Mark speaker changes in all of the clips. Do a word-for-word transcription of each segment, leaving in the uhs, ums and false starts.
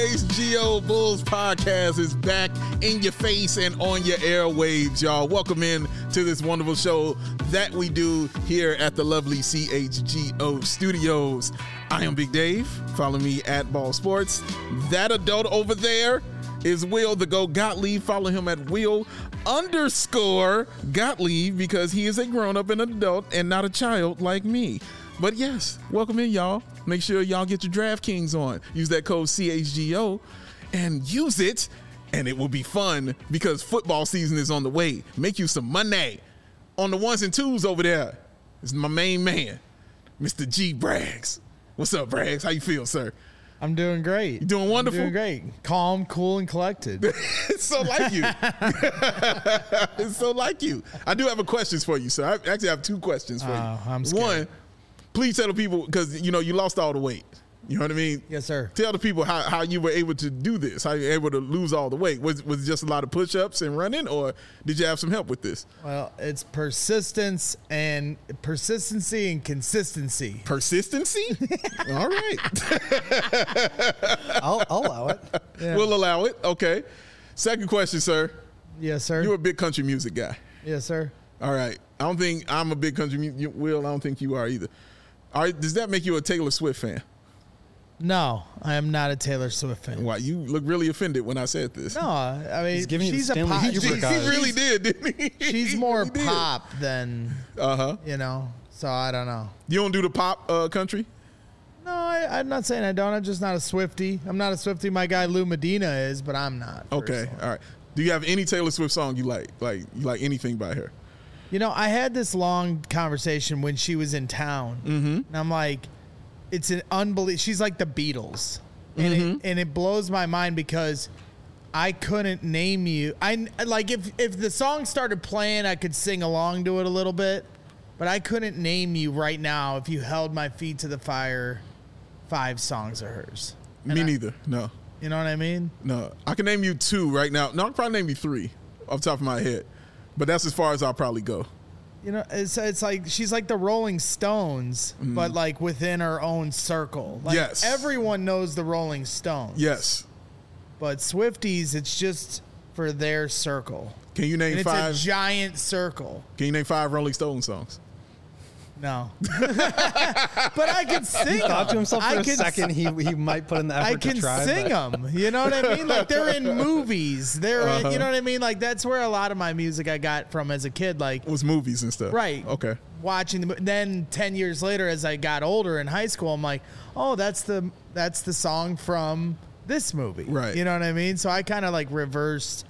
Speaker 1: H G O Bulls podcast is back in your face and on your airwaves, y'all. Welcome in to this wonderful show that we do here at the lovely C H G O studios. I am Big Dave. Follow me at Ball Sports. That adult over there is Will the Go Gottlieb. Follow him at Will underscore Gottlieb because he is a grown-up and an adult and not a child like me. But yes, welcome in, y'all. Make sure y'all get your DraftKings on. Use that code C H G O and use it, and it will be fun because football season is on the way. Make you some money on the ones and twos over there. This is my main man, Mister G Braggs. What's up, Braggs? How you feel, sir?
Speaker 2: I'm doing great.
Speaker 1: You doing wonderful?
Speaker 2: I'm doing great. Calm, cool, and collected.
Speaker 1: It's so like you. It's so like you. I do have a questions for you, sir. I actually have two questions for
Speaker 2: Oh,
Speaker 1: you.
Speaker 2: I'm scared.
Speaker 1: One, please tell the people, because, you know, you lost all the weight. You know what I mean?
Speaker 2: Yes, sir.
Speaker 1: Tell the people how, how you were able to do this, how you were able to lose all the weight. Was, was it just a lot of push-ups and running, or did you have some help with this?
Speaker 2: Well, it's persistence and persistency and consistency.
Speaker 1: Persistency? All right.
Speaker 3: I'll, I'll allow it.
Speaker 2: Yeah.
Speaker 1: We'll allow it. Okay. Second question, sir.
Speaker 2: Yes, sir.
Speaker 1: You're a big country music guy.
Speaker 2: Yes, sir.
Speaker 1: All right. I don't think I'm a big country music. Will, I don't think you are either. All right. Does that make you a Taylor Swift fan?
Speaker 2: No, I am not a Taylor Swift fan.
Speaker 1: Why? You look really offended when I said this.
Speaker 2: No, I mean,
Speaker 3: He's giving you the
Speaker 2: she's a
Speaker 3: Stanley
Speaker 2: pop.
Speaker 3: Kubrick
Speaker 1: He,
Speaker 2: she's-
Speaker 1: he
Speaker 3: eyes.
Speaker 1: really did, didn't he?
Speaker 2: She's
Speaker 1: He
Speaker 2: more
Speaker 1: really did.
Speaker 2: pop than,
Speaker 1: Uh-huh.
Speaker 2: you know, so I don't know.
Speaker 1: You don't do the pop uh, country?
Speaker 2: No, I, I'm not saying I don't. I'm just not a Swiftie. I'm not a Swiftie. My guy Lou Medina is, but I'm not.
Speaker 1: Okay.
Speaker 2: personally.
Speaker 1: All right. Do you have any Taylor Swift song you like? Like you like anything by her?
Speaker 2: You know, I had this long conversation when she was in town, mm-hmm. and I'm like, it's an unbelievable. She's like the Beatles, and
Speaker 1: Mm-hmm.
Speaker 2: it, and it blows my mind because I couldn't name you. I like if if the song started playing, I could sing along to it a little bit, but I couldn't name you right now if you held my feet to the fire. Five songs of hers.
Speaker 1: Me
Speaker 2: And I-
Speaker 1: neither. No.
Speaker 2: You know what I mean?
Speaker 1: No. I can name you two right now. No, I can probably name you three off the top of my head. But that's as far as I'll probably go.
Speaker 2: You know, it's it's like she's like the Rolling Stones, but like within her own circle. Like
Speaker 1: Yes.
Speaker 2: everyone knows the Rolling Stones.
Speaker 1: Yes.
Speaker 2: But Swifties, it's just for their circle.
Speaker 1: Can you name
Speaker 2: And it's
Speaker 1: five?
Speaker 2: a giant circle.
Speaker 1: Can you name five Rolling Stone songs?
Speaker 2: No. But I can sing them.
Speaker 3: Thought to himself for
Speaker 2: I
Speaker 3: a
Speaker 2: can,
Speaker 3: second he he might put in the effort
Speaker 2: I can
Speaker 3: to try.
Speaker 2: sing
Speaker 3: but
Speaker 2: them. You know what I mean? Like they're in movies. They're
Speaker 1: Uh-huh.
Speaker 2: in, you know what I mean? Like that's where a lot of my music I got from as a kid. Like
Speaker 1: It was movies and stuff.
Speaker 2: Right.
Speaker 1: Okay.
Speaker 2: watching the mo- then ten years later as I got older in high school, I'm like, oh, that's the that's the song from this movie.
Speaker 1: Right.
Speaker 2: You know what I mean? So I kind of like reversed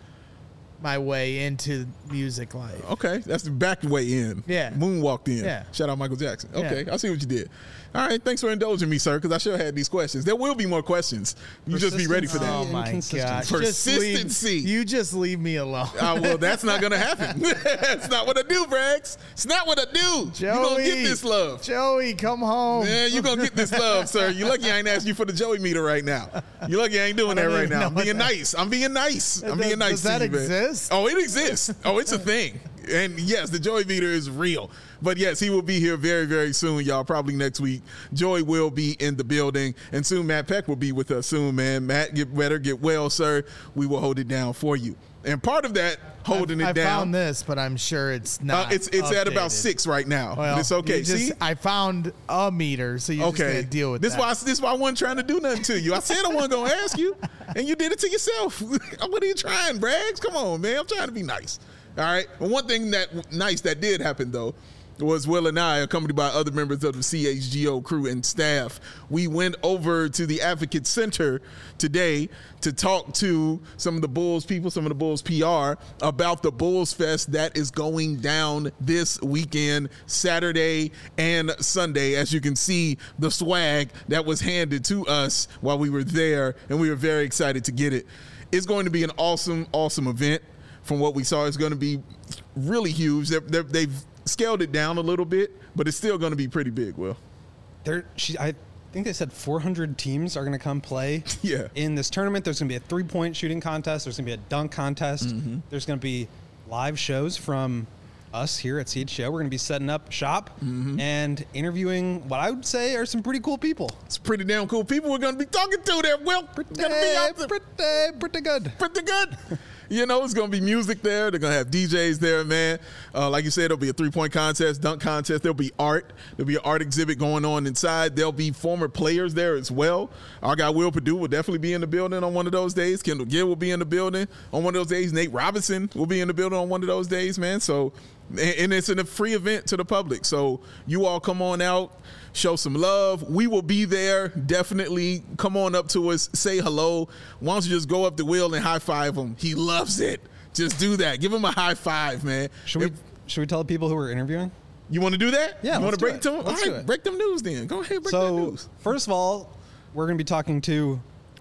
Speaker 2: my way into music life.
Speaker 1: Okay, that's the back way in.
Speaker 2: Yeah.
Speaker 1: Moonwalked in.
Speaker 2: Yeah.
Speaker 1: Shout out Michael Jackson. Okay,
Speaker 2: Yeah.
Speaker 1: I see what you did. All right, thanks for indulging me, sir, because I sure had these questions. There will be more questions. You just be ready for that.
Speaker 2: Oh
Speaker 3: and
Speaker 2: my
Speaker 3: consistency.
Speaker 2: gosh. Just leave-
Speaker 1: Persistency.
Speaker 2: you just leave me alone.
Speaker 1: Uh, well, that's not going to happen. That's not what I do, Braggs. It's not what I do. You're going to get this love.
Speaker 2: Joey, come home.
Speaker 1: Yeah, you're going to get this love, sir. You're lucky I ain't asked you for the Joey meter right now. You're lucky I ain't doing
Speaker 2: I
Speaker 1: that
Speaker 2: don't
Speaker 1: right
Speaker 2: even
Speaker 1: now. I'm
Speaker 2: know what
Speaker 1: being
Speaker 2: that-
Speaker 1: nice. I'm being nice. I'm
Speaker 2: Does-
Speaker 1: being nice
Speaker 2: does
Speaker 1: to
Speaker 2: that
Speaker 1: you, man.
Speaker 2: exist?
Speaker 1: Oh, it exists. Oh, it's a thing. And yes, the Joey meter is real. But yes, he will be here very, very soon, y'all. Probably next week. Joey will be in the building. And soon Matt Peck will be with us soon, man. Matt, get better, get well, sir. We will hold it down for you. And part of that, holding
Speaker 2: I,
Speaker 1: it
Speaker 2: I
Speaker 1: down.
Speaker 2: found this, but I'm sure it's
Speaker 1: uh,
Speaker 2: not.
Speaker 1: it's it's at about
Speaker 2: updated.
Speaker 1: six right now.
Speaker 2: Well,
Speaker 1: but it's okay.
Speaker 2: you just-
Speaker 1: See?
Speaker 2: I found a meter, so you're just
Speaker 1: Okay.
Speaker 2: gonna deal with
Speaker 1: this
Speaker 2: that.
Speaker 1: Why this why I wasn't trying to do nothing to you. I said I wasn't gonna ask you, and you did it to yourself. What are you trying, Braggs? Come on, man. I'm trying to be nice. All right. Well, one thing that nice that did happen though was Will and I, accompanied by other members of the C H G O crew and staff, we went over to the Advocate Center today to talk to some of the Bulls people, some of the Bulls P R about the Bulls Fest that is going down this weekend, Saturday and Sunday. As you can see, the swag that was handed to us while we were there, and we were very excited to get it. It's going to be an awesome, awesome event. From what we saw, it's going to be really huge. They're, they're, they've scaled it down a little bit, but it's still going to be pretty big, Will.
Speaker 3: There, she, I think they said four hundred teams are going to come play
Speaker 1: Yeah.
Speaker 3: in this tournament. There's going to be a three-point shooting contest. There's going to be a dunk contest.
Speaker 1: Mm-hmm.
Speaker 3: There's going to be live shows from us here at C H G O. We're going to be setting up shop
Speaker 1: Mm-hmm.
Speaker 3: and interviewing what I would say are some pretty cool people.
Speaker 1: It's pretty damn cool people we're going to be talking to there, Will.
Speaker 3: Pretty,
Speaker 1: Gonna be out there.
Speaker 3: pretty, pretty good.
Speaker 1: Pretty good. You know, it's going to be music there. They're going to have D Js there, man. Uh, like you said, there'll be a three-point contest, dunk contest. There'll be art. There'll be an art exhibit going on inside. There'll be former players there as well. Our guy Will Perdue will definitely be in the building on one of those days. Kendall Gill will be in the building on one of those days. Nate Robinson will be in the building on one of those days, man. So, and it's a free event to the public. So you all come on out. Show some love. We will be there. Definitely come on up to us. Say hello. Why don't you just go up to Will and high five him? He loves it. Just do that. Give him a high five, man.
Speaker 3: Should
Speaker 1: If,
Speaker 3: we should we tell the people who we're interviewing?
Speaker 1: you want to do that?
Speaker 3: Yeah,
Speaker 1: You want
Speaker 3: let's
Speaker 1: to
Speaker 3: do
Speaker 1: break
Speaker 3: it.
Speaker 1: it to him? All
Speaker 3: Let's do
Speaker 1: right,
Speaker 3: it.
Speaker 1: break them news then. Go ahead, break that
Speaker 3: So
Speaker 1: news.
Speaker 3: first of all, we're going to be talking to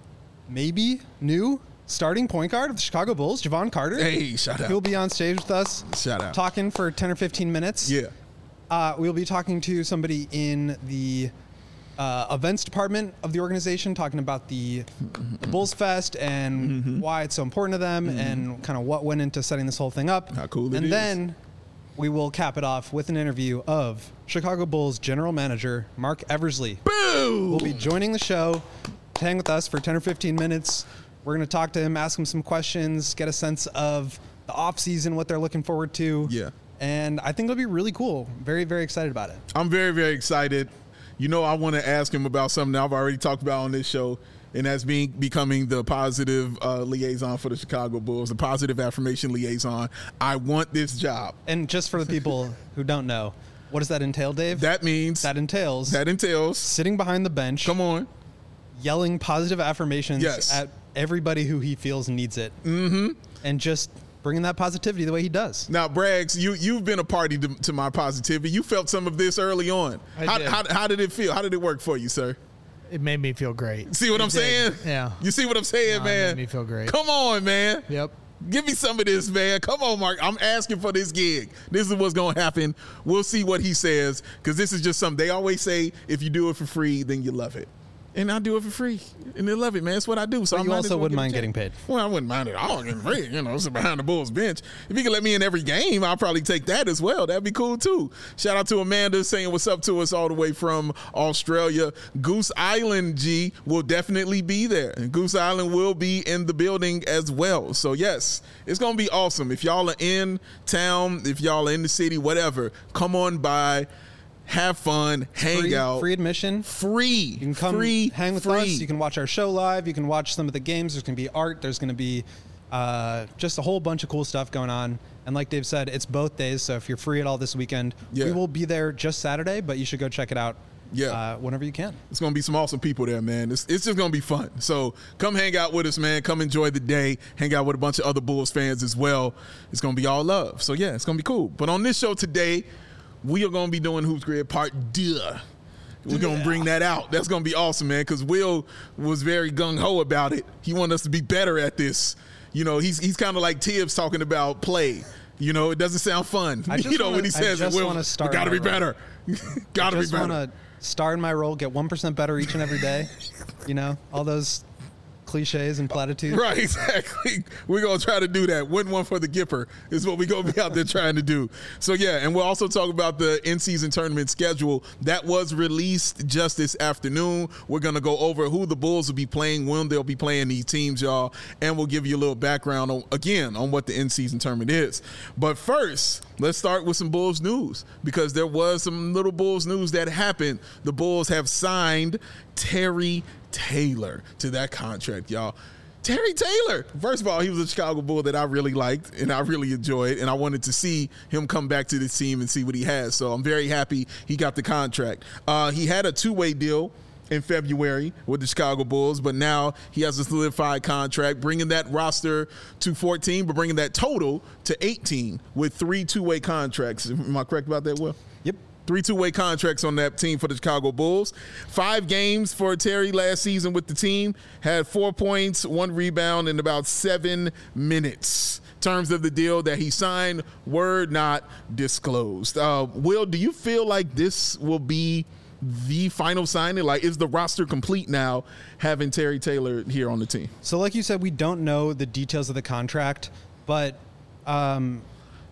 Speaker 3: maybe new starting point guard of the Chicago Bulls, Javon Carter.
Speaker 1: Hey, shout out.
Speaker 3: He'll be on stage with us.
Speaker 1: Shout out.
Speaker 3: Talking for ten or fifteen minutes.
Speaker 1: Yeah.
Speaker 3: Uh, we'll be talking to somebody in the uh, events department of the organization, talking about the, the Bulls Fest and
Speaker 1: Mm-hmm.
Speaker 3: why it's so important to them and kind of what went into setting this whole thing up.
Speaker 1: How cool it
Speaker 3: and
Speaker 1: is.
Speaker 3: then we will cap it off with an interview of Chicago Bulls general manager Mark Eversley.
Speaker 1: Boo!
Speaker 3: Will be joining the show to hang with us for ten or fifteen minutes. We're going to talk to him, ask him some questions, get a sense of the off season, what they're looking forward to.
Speaker 1: Yeah.
Speaker 3: And I think it'll be really cool. Very, very excited about it.
Speaker 1: I'm very, very excited. You know, I want to ask him about something I've already talked about on this show, and that's being becoming the positive uh, liaison for the Chicago Bulls, the positive affirmation liaison. I want this job.
Speaker 3: And just for the people who don't know, what does that entail, Dave?
Speaker 1: That means
Speaker 3: that entails
Speaker 1: that entails.
Speaker 3: sitting behind the bench,
Speaker 1: Come on.
Speaker 3: yelling positive affirmations
Speaker 1: Yes.
Speaker 3: at everybody who he feels needs it. Mm-hmm. And just bringing that positivity the way he does.
Speaker 1: Now, Braggs, you you've been a party to, to my positivity. You felt some of this early on.
Speaker 2: I
Speaker 1: How,
Speaker 2: did.
Speaker 1: how how did it feel? How did it work for you, sir?
Speaker 2: It made me feel great.
Speaker 1: See what
Speaker 2: It
Speaker 1: I'm
Speaker 2: did.
Speaker 1: saying?
Speaker 2: Yeah.
Speaker 1: You see what I'm saying,
Speaker 2: No, it
Speaker 1: man?
Speaker 2: made me feel great.
Speaker 1: Come on, man.
Speaker 2: Yep.
Speaker 1: Give me some of this, man. Come on, Mark. I'm asking for this gig. This is what's going to happen. We'll see what he says, because this is just something. They always say, if you do it for free, then you love it. And I do it for free, and they love it, man. That's what I do. So
Speaker 3: But
Speaker 1: I
Speaker 3: you
Speaker 1: might
Speaker 3: also
Speaker 1: as well
Speaker 3: wouldn't
Speaker 1: give a
Speaker 3: mind
Speaker 1: check.
Speaker 3: getting paid.
Speaker 1: Well, I wouldn't mind it all getting paid. You know, sit behind the Bulls bench. If you can let me in every game, I'll probably take that as well. That'd be cool too. Shout out to Amanda saying what's up to us all the way from Australia. Goose Island G will definitely be there, and Goose Island will be in the building as well. So yes, it's gonna be awesome. If y'all are in town, if y'all are in the city, whatever, come on by. Have fun, hang
Speaker 3: Free,
Speaker 1: out,
Speaker 3: free admission.
Speaker 1: free.
Speaker 3: You can come
Speaker 1: free,
Speaker 3: hang with
Speaker 1: free.
Speaker 3: us. You can watch our show live. You can watch some of the games. There's going to be art. There's going to be uh, just a whole bunch of cool stuff going on. And like Dave said, it's both days. So if you're free at all this weekend,
Speaker 1: Yeah.
Speaker 3: we will be there just Saturday, but you should go check it out
Speaker 1: Yeah.
Speaker 3: uh, whenever you can.
Speaker 1: It's going to be some awesome people there, man. It's, it's just going to be fun. So come hang out with us, man. Come enjoy the day. Hang out with a bunch of other Bulls fans as well. It's going to be all love. So, yeah, it's going to be cool. But on this show today, we are going to be doing Hoops Grid Part Duh. We're going to bring that out. That's going to be awesome, man, because Will was very gung-ho about it. He wanted us to be better at this. You know, he's he's kind of like Tibbs talking about play. You know, it doesn't sound fun.
Speaker 3: I just
Speaker 1: you know,
Speaker 3: wanna-
Speaker 1: when he
Speaker 3: I
Speaker 1: says it,
Speaker 3: just
Speaker 1: Will,
Speaker 3: wanna start
Speaker 1: got to
Speaker 3: my
Speaker 1: be
Speaker 3: role.
Speaker 1: better. got to be
Speaker 3: Just
Speaker 1: better.
Speaker 3: want to star in my role, get one percent better each and every day. You know, all those cliches and platitudes.
Speaker 1: Right, exactly. We're going to try to do that. Win one for the Gipper is what we're going to be out there trying to do. So, yeah, and we'll also talk about the in-season tournament schedule. That was released just this afternoon. We're going to go over who the Bulls will be playing, when they'll be playing these teams, y'all, and we'll give you a little background, on, again, on what the in-season tournament is. But first, let's start with some Bulls news, because there was some little Bulls news that happened. The Bulls have signed Terry Taylor to that contract, y'all. Terry Taylor, first of all, he was a Chicago Bull that I really liked and I really enjoyed, and I wanted to see him come back to this team and see what he has. So I'm very happy he got the contract. Uh, he had a two-way deal in February with the Chicago Bulls, but now he has a solidified contract, bringing that roster to fourteen, but bringing that total to eighteen with three two-way contracts. Am I correct about that, Will?
Speaker 3: Yep.
Speaker 1: Three two-way contracts on that team for the Chicago Bulls. Five games for Terry last season with the team. Had four points, one rebound in about seven minutes. Terms of the deal that he signed were not disclosed. Uh, Will, do you feel like this will be the final signing? Like, is the roster complete now having Terry Taylor here on the team?
Speaker 3: So like you said, we don't know the details of the contract, but um,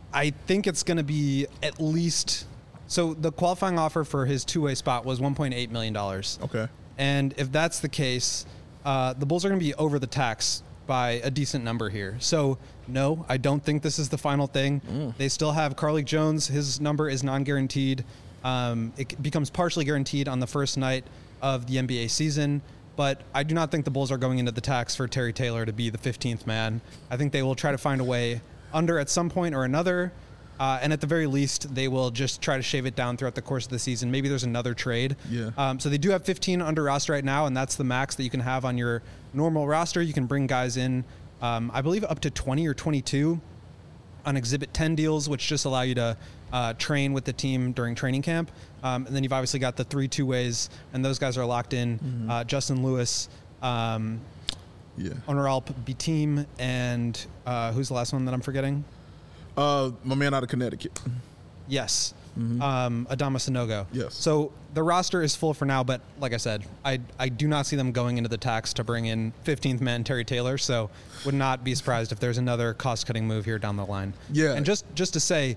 Speaker 3: I think it's going to be at least. So the qualifying offer for his two-way spot was one point eight million dollars.
Speaker 1: Okay.
Speaker 3: And if that's the case, uh, the Bulls are going to be over the tax by a decent number here. So no, I don't think this is the final thing. Mm. They still have Carlik Jones. His number is non-guaranteed. Um, it becomes partially guaranteed on the first night of the N B A season. But I do not think the Bulls are going into the tax for Terry Taylor to be the fifteenth man. I think they will try to find a way under at some point or another. Uh, and at the very least, they will just try to shave it down throughout the course of the season. Maybe there's another trade.
Speaker 1: Yeah.
Speaker 3: Um, so they do have fifteen under roster right now, and that's the max that you can have on your normal roster. You can bring guys in, um, I believe, up to twenty or twenty-two on Exhibit ten deals, which just allow you to uh, train with the team during training camp. Um, and then you've obviously got the three two-ways, and those guys are locked in. Mm-hmm. Uh, Justin Lewis, um,
Speaker 1: yeah.
Speaker 3: Honoralp Bitim, and uh, who's the last one that I'm forgetting?
Speaker 1: Uh, my man out of Connecticut.
Speaker 3: Yes. Mm-hmm. Um, Adama Sanogo.
Speaker 1: Yes.
Speaker 3: So the roster is full for now, but like I said, I I do not see them going into the tax to bring in fifteenth man Terry Taylor, so would not be surprised if there's another cost-cutting move here down the line.
Speaker 1: Yeah.
Speaker 3: And just, just to say,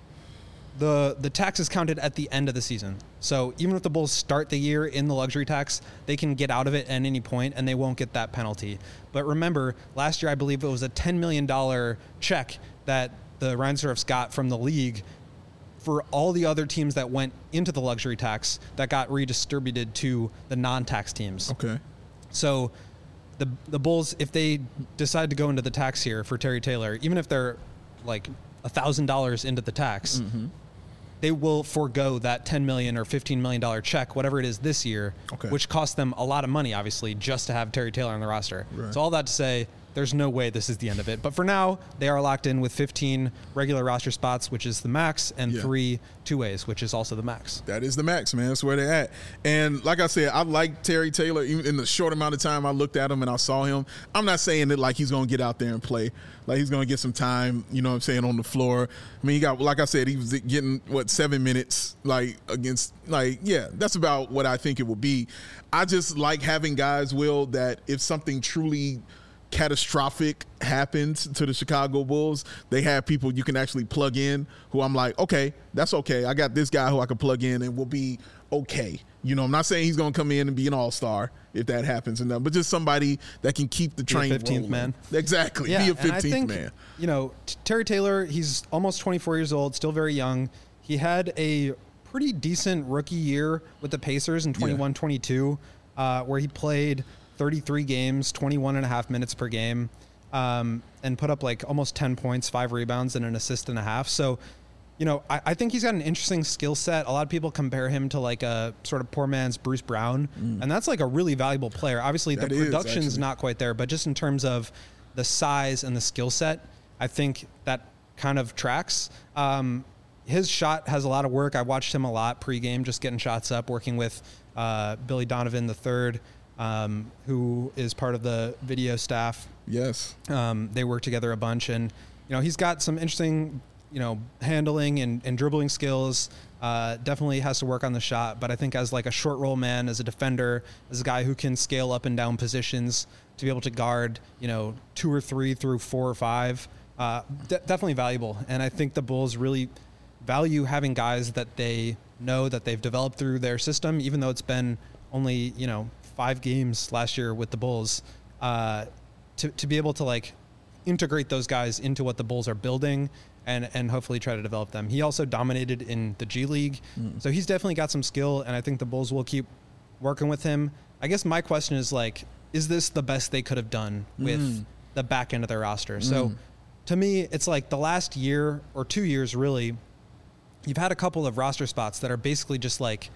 Speaker 3: the the tax is counted at the end of the season. So even if the Bulls start the year in the luxury tax, they can get out of it at any point and they won't get that penalty. But remember, last year I believe it was a ten million dollars check that the Reinsdorfs got from the league for all the other teams that went into the luxury tax that got redistributed to the non-tax teams.
Speaker 1: Okay.
Speaker 3: So the the Bulls, if they decide to go into the tax here for Terry Taylor, even if they're like one thousand dollars into the tax, mm-hmm. they will forego that ten million dollars or fifteen million dollars check, whatever it is this year,
Speaker 1: okay.
Speaker 3: which cost them a lot of money, obviously, just to have Terry Taylor on the roster.
Speaker 1: Right.
Speaker 3: So all that to say, there's no way this is the end of it. But for now, they are locked in with fifteen regular roster spots, which is the max, and
Speaker 1: yeah.
Speaker 3: three two-ways, which is also the max.
Speaker 1: That is the max, man. That's where they're at. And like I said, I like Terry Taylor. Even in the short amount of time I looked at him and I saw him, I'm not saying that like he's going to get out there and play. Like he's going to get some time, you know what I'm saying, on the floor. I mean, he got, like I said, he was getting, what, seven minutes, like, against, like, yeah, that's about what I think it will be. I just like having guys, Will, that if something truly catastrophic happens to the Chicago Bulls, they have people you can actually plug in who I'm like, okay, that's okay. I got this guy who I can plug in and we'll be okay. You know, I'm not saying he's going to come in and be an all-star if that happens, and but just somebody that can keep the train rolling.
Speaker 3: fifteenth man.
Speaker 1: Exactly.
Speaker 3: Yeah,
Speaker 1: be a
Speaker 3: and I
Speaker 1: fifteenth
Speaker 3: think,
Speaker 1: man.
Speaker 3: You know, t- Terry Taylor, he's almost twenty-four years old, still very young. He had a pretty decent rookie year with the Pacers in twenty-one twenty-two, uh, where he played thirty-three games, twenty-one and a half minutes per game, um, and put up like almost ten points, five rebounds, and an assist and a half. So, you know, I, I think he's got an interesting skill set. A lot of people compare him to like a sort of poor man's Bruce Brown, mm. and that's like a really valuable player. Obviously, that the production's is, not quite there, but just in terms of the size and the skill set, I think that kind of tracks. Um, his shot has a lot of work. I watched him a lot pregame, just getting shots up, working with uh, Billy Donovan the third. Um, who is part of the video staff.
Speaker 1: Yes.
Speaker 3: Um, they work together a bunch, and, you know, he's got some interesting, you know, handling and, and dribbling skills. Uh, definitely has to work on the shot, but I think as like a short roll man, as a defender, as a guy who can scale up and down positions to be able to guard, you know, two or three through four or five, uh, de- definitely valuable. And I think the Bulls really value having guys that they know that they've developed through their system, even though it's been only, you know, five games last year with the Bulls, uh, to, to be able to like integrate those guys into what the Bulls are building and, and hopefully try to develop them. He also dominated in the G League. Mm. So he's definitely got some skill, and I think the Bulls will keep working with him. I guess my question is like, is this the best they could have done with mm. the back end of their roster? Mm. So to me, it's like the last year or two years, really, you've had a couple of roster spots that are basically just like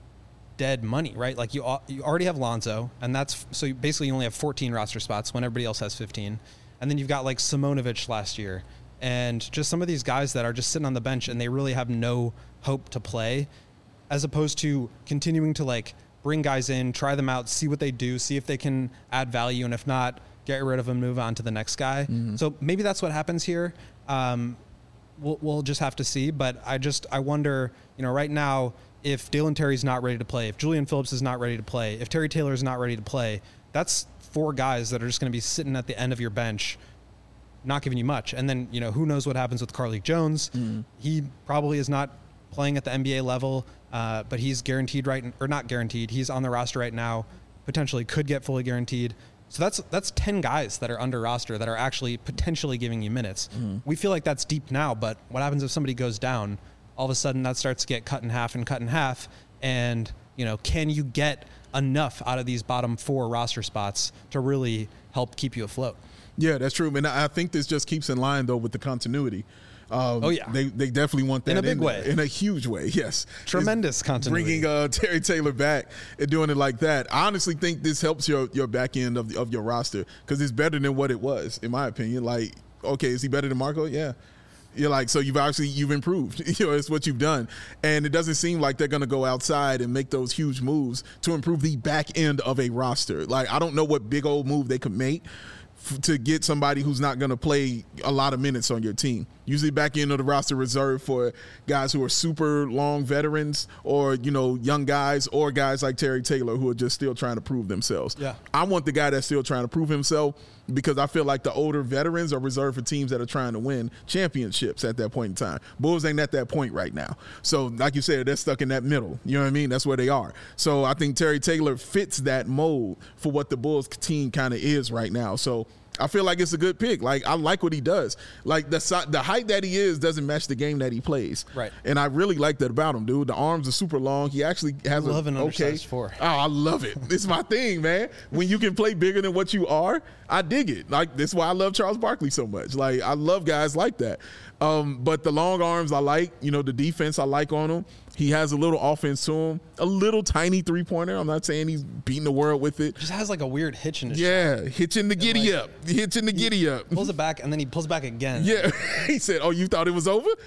Speaker 3: dead money, right? Like you you already have Lonzo, and that's so basically you only have fourteen roster spots when everybody else has fifteen. And then you've got like Simonovic last year, and just some of these guys that are just sitting on the bench and they really have no hope to play, as opposed to continuing to like bring guys in, try them out, see what they do, see if they can add value, and if not, get rid of them, move on to the next guy. Mm-hmm. So maybe that's what happens here. Um, we'll we'll just have to see. But I just I wonder, you know, right now, if Dalen Terry's not ready to play, if Julian Phillips is not ready to play, if Terry Taylor is not ready to play, that's four guys that are just going to be sitting at the end of your bench, not giving you much. And then, you know, who knows what happens with Carlik Jones? Mm. He probably is not playing at the N B A level, uh, but he's guaranteed right, or not guaranteed. He's on the roster right now, potentially could get fully guaranteed. So that's that's ten guys that are under roster that are actually potentially giving you minutes. Mm. We feel like that's deep now, but what happens if somebody goes down? All of a sudden that starts to get cut in half and cut in half. And, you know, can you get enough out of these bottom four roster spots to really help keep you afloat?
Speaker 1: Yeah, that's true. And I think this just keeps in line, though, with the continuity. Um,
Speaker 3: oh, yeah.
Speaker 1: They they definitely want that
Speaker 3: in a big
Speaker 1: in,
Speaker 3: way.
Speaker 1: In a huge way, yes.
Speaker 3: Tremendous
Speaker 1: it's
Speaker 3: continuity.
Speaker 1: Bringing uh, Terry Taylor back and doing it like that. I honestly think this helps your, your back end of, the, of your roster because it's better than what it was, in my opinion. Like, okay, is he better than Marco? Yeah. You're like, so you've actually, you've improved. You know, it's what you've done. And it doesn't seem like they're going to go outside and make those huge moves to improve the back end of a roster. Like, I don't know what big old move they could make f- to get somebody who's not going to play a lot of minutes on your team. Usually back end of the roster reserved for guys who are super long veterans or, you know, young guys or guys like Terry Taylor who are just still trying to prove themselves.
Speaker 3: Yeah.
Speaker 1: I want the guy that's still trying to prove himself because I feel like the older veterans are reserved for teams that are trying to win championships at that point in time. Bulls ain't at that point right now. So like you said, they're stuck in that middle. You know what I mean? That's where they are. So I think Terry Taylor fits that mold for what the Bulls team kind of is right now. So I feel like it's a good pick. Like, I like what he does. Like, the the height that he is doesn't match the game that he plays.
Speaker 3: Right.
Speaker 1: And I really like that about him, dude. The arms are super long. He actually has
Speaker 3: I love
Speaker 1: a,
Speaker 3: an
Speaker 1: okay.
Speaker 3: undersized four.
Speaker 1: Oh, I love it. It's my thing, man. When you can play bigger than what you are, I dig it. Like, that's why I love Charles Barkley so much. Like, I love guys like that. Um, but the long arms I like. You know, the defense I like on him. He has a little offense to him, a little tiny three-pointer. I'm not saying he's beating the world with it.
Speaker 3: Just has like a weird hitch in his
Speaker 1: Yeah,
Speaker 3: shot.
Speaker 1: hitching the giddy
Speaker 3: like,
Speaker 1: up. Hitching the giddy up.
Speaker 3: Pulls it back, and then he pulls back again.
Speaker 1: Yeah. He said, oh, you thought it was over?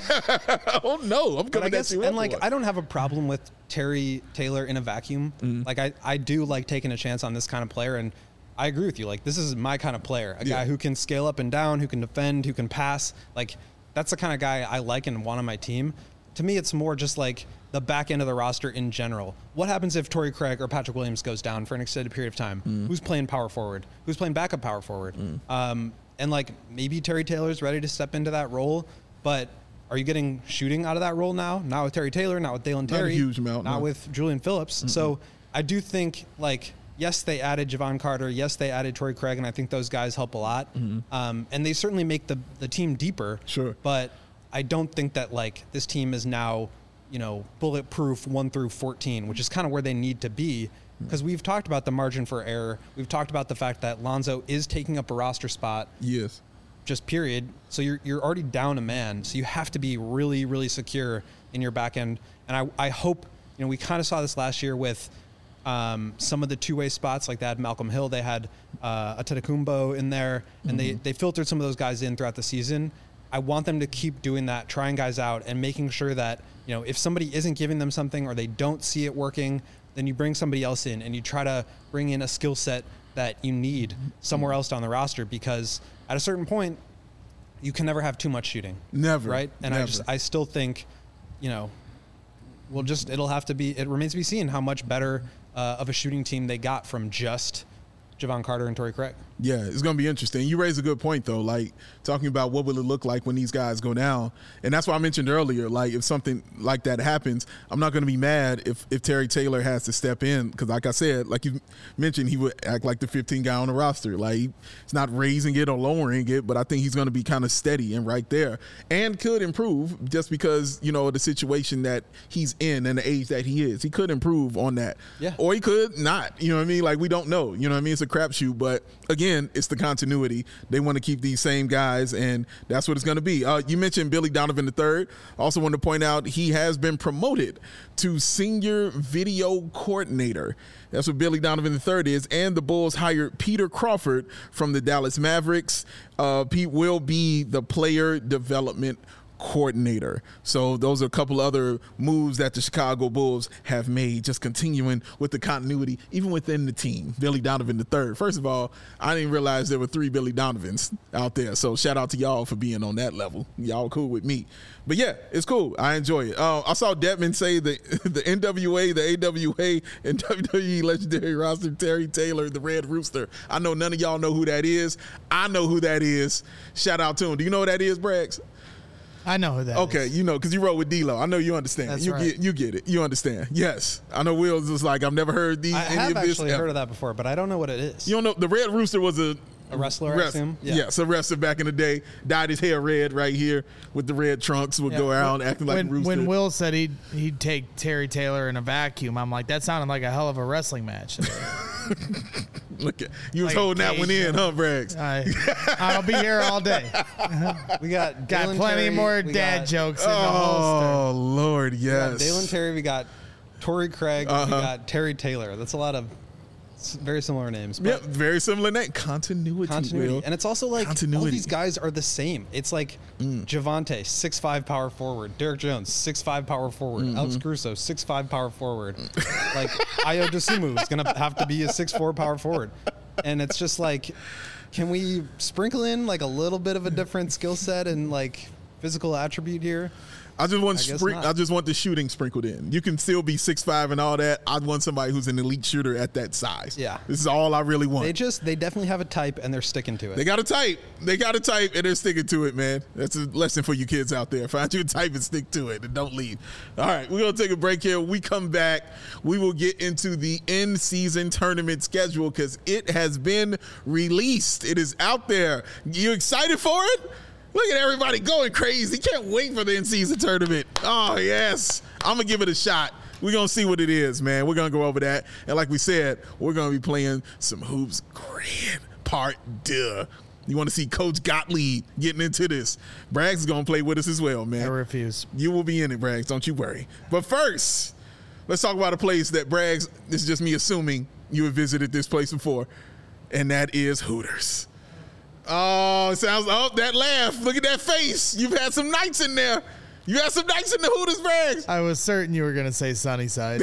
Speaker 1: Oh, no. I'm
Speaker 3: But
Speaker 1: coming
Speaker 3: I guess,
Speaker 1: at you.
Speaker 3: and like,
Speaker 1: up.
Speaker 3: I don't have a problem with Terry Taylor in a vacuum. Mm-hmm. Like, I, I do like taking a chance on this kind of player, and I agree with you. Like, this is my kind of player, a
Speaker 1: yeah.
Speaker 3: guy who can scale up and down, who can defend, who can pass. Like, that's the kind of guy I like and want on my team. To me, it's more just like the back end of the roster in general. What happens if Torrey Craig or Patrick Williams goes down for an extended period of time? Mm. Who's playing power forward? Who's playing backup power forward? Mm. Um, and like maybe Terry Taylor's ready to step into that role, but are you getting shooting out of that role now? Not with Terry Taylor, not with Dalen Terry,
Speaker 1: not a huge amount,
Speaker 3: not
Speaker 1: no.
Speaker 3: with Julian Phillips. Mm-mm. So I do think like yes, they added Javon Carter. Yes, they added Torrey Craig, and I think those guys help a lot. Mm-hmm. Um, and they certainly make the the team deeper.
Speaker 1: Sure,
Speaker 3: but I don't think that like this team is now, you know, bulletproof one through fourteen, which is kind of where they need to be. Because we've talked about the margin for error. We've talked about the fact that Lonzo is taking up a roster spot.
Speaker 1: Yes.
Speaker 3: Just period. So you're you're already down a man. So you have to be really, really secure in your back end. And I, I hope, you know, we kind of saw this last year with um, some of the two-way spots. Like they had Malcolm Hill. They had uh, Antetokounmpo in there. And mm-hmm. they, they filtered some of those guys in throughout the season. I want them to keep doing that, trying guys out and making sure that, you know, if somebody isn't giving them something or they don't see it working, then you bring somebody else in and you try to bring in a skill set that you need somewhere else on the roster, because at a certain point you can never have too much shooting.
Speaker 1: Never.
Speaker 3: Right. And
Speaker 1: never.
Speaker 3: I just, I still think, you know, we'll just, it'll have to be, it remains to be seen how much better uh, of a shooting team they got from just Javon Carter and Torrey Craig.
Speaker 1: Yeah, it's going to be interesting. You raise a good point, though, like talking about what will it look like when these guys go down. And that's why I mentioned earlier, like if something like that happens, I'm not going to be mad if, if Terry Taylor has to step in. Because like I said, like you mentioned, he would act like the fifteenth guy on the roster. Like he's not raising it or lowering it, but I think he's going to be kind of steady and right there and could improve just because, you know, the situation that he's in and the age that he is. He could improve on that.
Speaker 3: Yeah.
Speaker 1: Or he could not. You know what I mean? Like we don't know. You know what I mean? It's a crapshoot. But again, it's the continuity. They want to keep these same guys, and that's what it's going to be. Uh, you mentioned Billy Donovan the third. Also want to point out he has been promoted to senior video coordinator. That's what Billy Donovan the third is. And the Bulls hired Peter Crawford from the Dallas Mavericks. Uh, Pete will be the player development coordinator. So those are a couple other moves that the Chicago Bulls have made, just continuing with the continuity, even within the team. Billy Donovan the third. First of all, I didn't realize there were three Billy Donovans out there. So shout out to y'all for being on that level. Y'all cool with me. But yeah, it's cool. I enjoy it. Uh, I saw Detman say the the N W A, the A W A, and W W E legendary roster Terry Taylor, the Red Rooster. I know none of y'all know who that is. I know who that is. Shout out to him. Do you know who that is, Braggs?
Speaker 2: I know who that
Speaker 1: okay,
Speaker 2: is.
Speaker 1: you know, because you wrote with D-Lo. I know you understand.
Speaker 2: That's
Speaker 1: you
Speaker 2: right.
Speaker 1: get you get it. You understand. Yes. I know Will's was like, I've never heard these.
Speaker 3: I
Speaker 1: any
Speaker 3: have
Speaker 1: of this
Speaker 3: actually
Speaker 1: ever.
Speaker 3: heard of that before, but I don't know what it is.
Speaker 1: You don't know, the Red Rooster was a
Speaker 3: A wrestler, I
Speaker 1: Wrest-
Speaker 3: assume?
Speaker 1: Yeah. Yes, a wrestler back in the day. Dyed his hair red right here with the red trunks, would
Speaker 2: Yeah.
Speaker 1: go around acting like
Speaker 2: when,
Speaker 1: a rooster.
Speaker 2: when Will said he'd he'd take Terry Taylor in a vacuum, I'm like, that sounded like a hell of a wrestling match.
Speaker 1: Look at you was
Speaker 2: Like a
Speaker 1: holding that one
Speaker 2: cage,
Speaker 1: in, huh, Braggs?
Speaker 2: I, I'll be here all day.
Speaker 3: We got
Speaker 2: Got
Speaker 3: Dalen
Speaker 2: plenty
Speaker 3: Terry,
Speaker 2: more
Speaker 3: we
Speaker 2: dad
Speaker 3: got,
Speaker 2: jokes in the holster.
Speaker 1: Oh Lord,
Speaker 3: We got
Speaker 1: yes.
Speaker 3: Dalen Terry, we got Torrey Craig,
Speaker 1: Uh-huh.
Speaker 3: we got Terry Taylor. That's a lot of s- very similar names. But
Speaker 1: Yep, very similar name. Continuity.
Speaker 3: continuity.
Speaker 1: Will.
Speaker 3: And it's also like all
Speaker 1: Continuity.
Speaker 3: these guys are the same. It's like Javante, six five power forward. Derek Jones, six five power forward.
Speaker 1: Mm-hmm.
Speaker 3: Alex Caruso, six five power forward. Like Ayo Dosunmu is going to have to be a six four power forward. And it's just like, can we sprinkle in like a little bit of a different skill set and like physical attribute here?
Speaker 1: I just want
Speaker 3: I guess
Speaker 1: sprin-
Speaker 3: not.
Speaker 1: I just want the shooting sprinkled in. You can still be six five and all that. I want somebody who's an elite shooter at that size.
Speaker 3: Yeah.
Speaker 1: This is all I really want.
Speaker 3: They just, they definitely have a type and they're sticking to it.
Speaker 1: They got a type. They got a type, and they're sticking to it, man. That's a lesson for you kids out there. Find you a type and stick to it, and don't leave. All right, we're going to take a break here. When we come back, we will get into the in-season tournament schedule because it has been released. It is out there. You excited for it? Look at everybody going crazy. Can't wait for the in-season tournament. Oh, yes. I'm going to give it a shot. We're going to see what it is, man. We're going to go over that. And like we said, we're going to be playing some Hoops Grand Part Deux. You want to see Coach Gottlieb getting into this. Braggs is going to play with us as well, man.
Speaker 2: I refuse.
Speaker 1: You will be in it, Braggs. Don't you worry. But first, let's talk about a place that Braggs, this is just me assuming you have visited this place before, and that is Hooters. Oh, it sounds, oh, that laugh. Look at that face. You've had some nights in there. You had some nights in the Hooters, Braggs.
Speaker 2: I was certain you were going to say Sunnyside.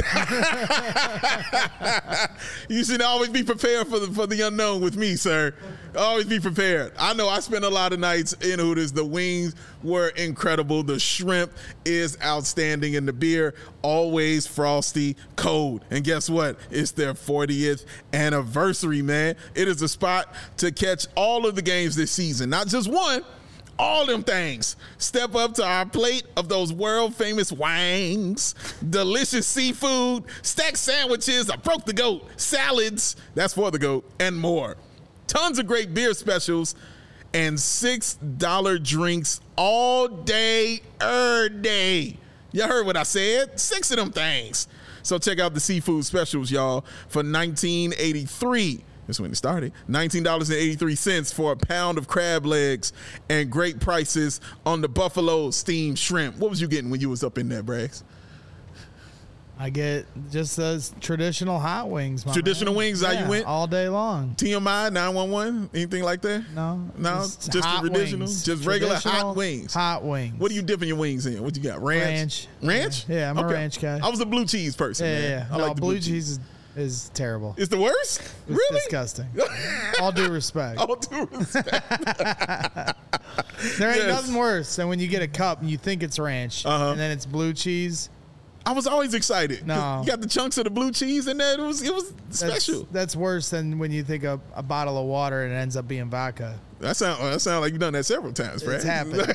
Speaker 1: You should always be prepared for the for the unknown with me, sir. Always be prepared. I know I spent a lot of nights in Hooters. The wings were incredible. The shrimp is outstanding, and the beer always frosty cold. And guess what? It's their fortieth anniversary, man. It is a spot to catch all of the games this season, not just one. All them things. Step up to our plate of those world famous wangs, delicious seafood, stacked sandwiches, I broke the goat, salads, that's for the goat, and more. Tons of great beer specials and six dollar drinks all day, er day. Y'all heard what I said? Six of them things. So check out the seafood specials, y'all, for nineteen eighty-three. That's when it started. nineteen dollars and eighty-three cents for a pound of crab legs and great prices on the buffalo steamed shrimp. What was you getting when you was up in there, Braggs?
Speaker 2: I get just those traditional hot wings. My
Speaker 1: Traditional
Speaker 2: man.
Speaker 1: wings, how you
Speaker 2: Yeah,
Speaker 1: went?
Speaker 2: all day long.
Speaker 1: T M I, nine one one, anything like that?
Speaker 2: No,
Speaker 1: No, just the
Speaker 2: hot
Speaker 1: traditional?
Speaker 2: wings.
Speaker 1: Just regular hot
Speaker 2: Traditional
Speaker 1: wings.
Speaker 2: Hot wings.
Speaker 1: What do you dipping your wings in? What you got? Ranch?
Speaker 2: Ranch.
Speaker 1: Ranch?
Speaker 2: Yeah, I'm a ranch guy.
Speaker 1: I was a blue cheese person,
Speaker 2: Yeah,
Speaker 1: man.
Speaker 2: yeah. yeah.
Speaker 1: I
Speaker 2: No,
Speaker 1: like the
Speaker 2: blue cheese is, is terrible.
Speaker 1: It's the worst?
Speaker 2: It's
Speaker 1: really?
Speaker 2: disgusting. All due respect.
Speaker 1: All due respect.
Speaker 2: There ain't
Speaker 1: Yes.
Speaker 2: nothing worse than when you get a cup and you think it's ranch,
Speaker 1: Uh-huh.
Speaker 2: and then it's blue cheese.
Speaker 1: I was always excited. 'cause
Speaker 2: No.
Speaker 1: You got the chunks of the blue cheese in there. It was, it was
Speaker 2: That's,
Speaker 1: special.
Speaker 2: That's worse than when you think of a bottle of water and it ends up being vodka.
Speaker 1: That sound that sound like you've done that several times, Brad.
Speaker 2: It's happened.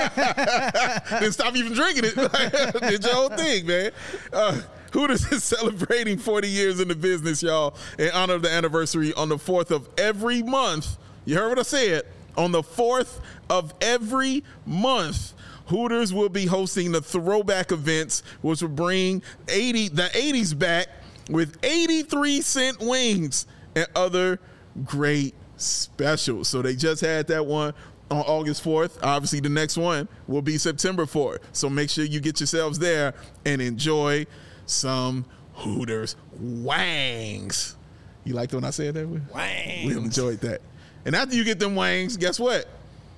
Speaker 1: Then stop even drinking it. Did your whole thing, man. Uh, Hooters is celebrating forty years in the business, y'all, in honor of the anniversary on the fourth of every month. You heard what I said. On the fourth of every month, Hooters will be hosting the throwback events, which will bring eighty the eighties back with eighty-three cent wings and other great specials. So they just had that one on August fourth. Obviously, the next one will be September fourth. So make sure you get yourselves there and enjoy some Hooters wangs. You liked it when I said that?
Speaker 3: Wangs.
Speaker 1: We enjoyed that. And after you get them wangs, guess what?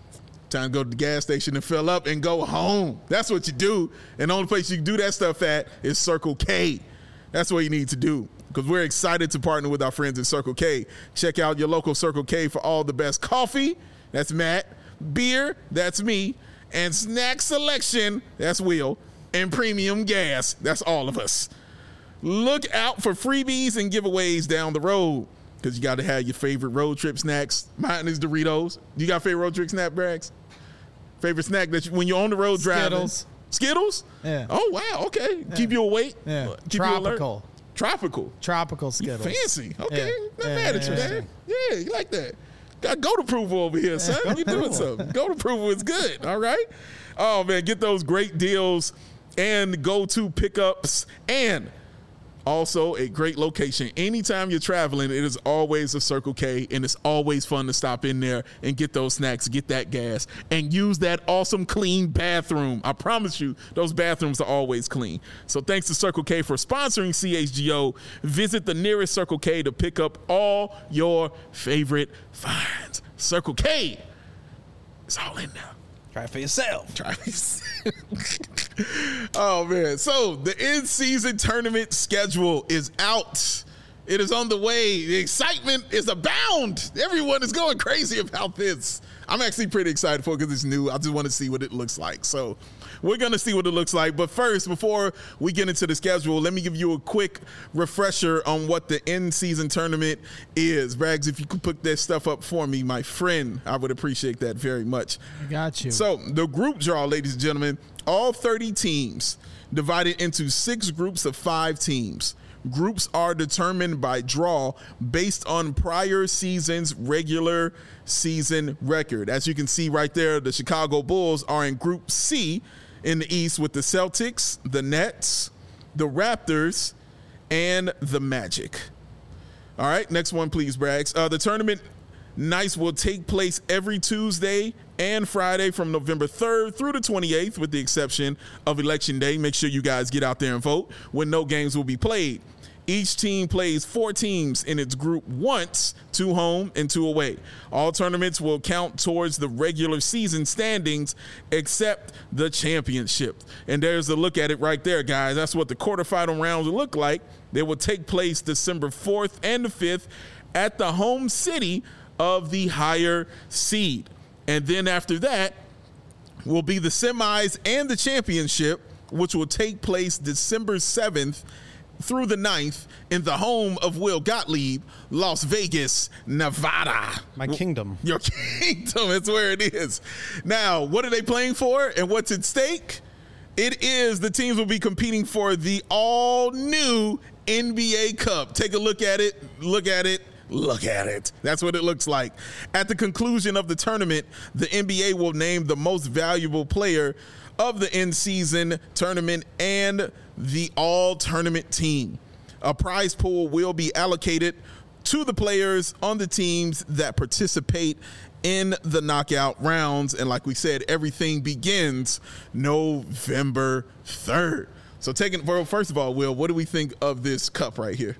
Speaker 1: Time to go to the gas station and fill up and go home. That's what you do. And the only place you can do that stuff at is Circle K. That's what you need to do, because we're excited to partner with our friends at Circle K. Check out your local Circle K for all the best coffee. That's Matt. Beer. That's me. And snack selection. That's Will. And premium gas. That's all of us. Look out for freebies and giveaways down the road, because you got to have your favorite road trip snacks. Mine is Doritos. You got a favorite road trip snack, Brags? Favorite snack that you, when you're on the road driving?
Speaker 2: Skittles.
Speaker 1: Skittles?
Speaker 2: Yeah.
Speaker 1: Oh, wow. Okay.
Speaker 2: Yeah. Keep
Speaker 1: you awake.
Speaker 2: Yeah.
Speaker 1: Keep
Speaker 2: Tropical.
Speaker 1: You Tropical.
Speaker 2: Tropical Skittles.
Speaker 1: You fancy. Okay.
Speaker 2: Yeah.
Speaker 1: Not
Speaker 2: yeah,
Speaker 1: mad at you,
Speaker 2: yeah.
Speaker 1: man. Yeah, you like that. Got go to approval over here, son.
Speaker 2: Yeah.
Speaker 1: You doing something. Go to approval is good. All right. Oh, man. Get those great deals and go-to pickups, and also a great location. Anytime you're traveling, it is always a Circle K, and it's always fun to stop in there and get those snacks, get that gas, and use that awesome clean bathroom. I promise you, those bathrooms are always clean. So thanks to Circle K for sponsoring C H G O. Visit the nearest Circle K to pick up all your favorite finds. Circle K, it's all in there.
Speaker 3: Try it for yourself.
Speaker 1: Try it. Oh, man. So the in-season tournament schedule is out. It is on the way. The excitement is abound. Everyone is going crazy about this. I'm actually pretty excited for it because it's new. I just want to see what it looks like. So we're going to see what it looks like. But first, before we get into the schedule, let me give you a quick refresher on what the in-season tournament is. Brags, if you could put that stuff up for me, my friend, I would appreciate that very much.
Speaker 2: I got you.
Speaker 1: So the group draw, ladies and gentlemen, all thirty teams divided into six groups of five teams. Groups are determined by draw based on prior season's regular season record. As you can see right there, the Chicago Bulls are in Group C in the East with the Celtics, the Nets, the Raptors, and the Magic. All right, next one, please, Brags. Uh, the tournament nights will take place every Tuesday and Friday from November third through the twenty-eighth, with the exception of Election Day. Make sure you guys get out there and vote when no games will be played. Each team plays four teams in its group once, two home and two away. All tournaments will count towards the regular season standings except the championship. And there's a look at it right there, guys. That's what the quarterfinal rounds will look like. They will take place December fourth and the fifth at the home city of the higher seed. And then after that will be the semis and the championship, which will take place December seventh through the ninth in the home of Will Gottlieb, Las Vegas, Nevada.
Speaker 3: My kingdom.
Speaker 1: Your kingdom is where it is. Now, what are they playing for and what's at stake? It is the teams will be competing for the all-new N B A Cup. Take a look at it. Look at it. Look at it. That's what it looks like. At the conclusion of the tournament, the N B A will name the most valuable player of the in-season tournament and the all-tournament team. A prize pool will be allocated to the players on the teams that participate in the knockout rounds. And like we said, everything begins November third. So taking, well, first of all, Will, what do we think of this cup right here?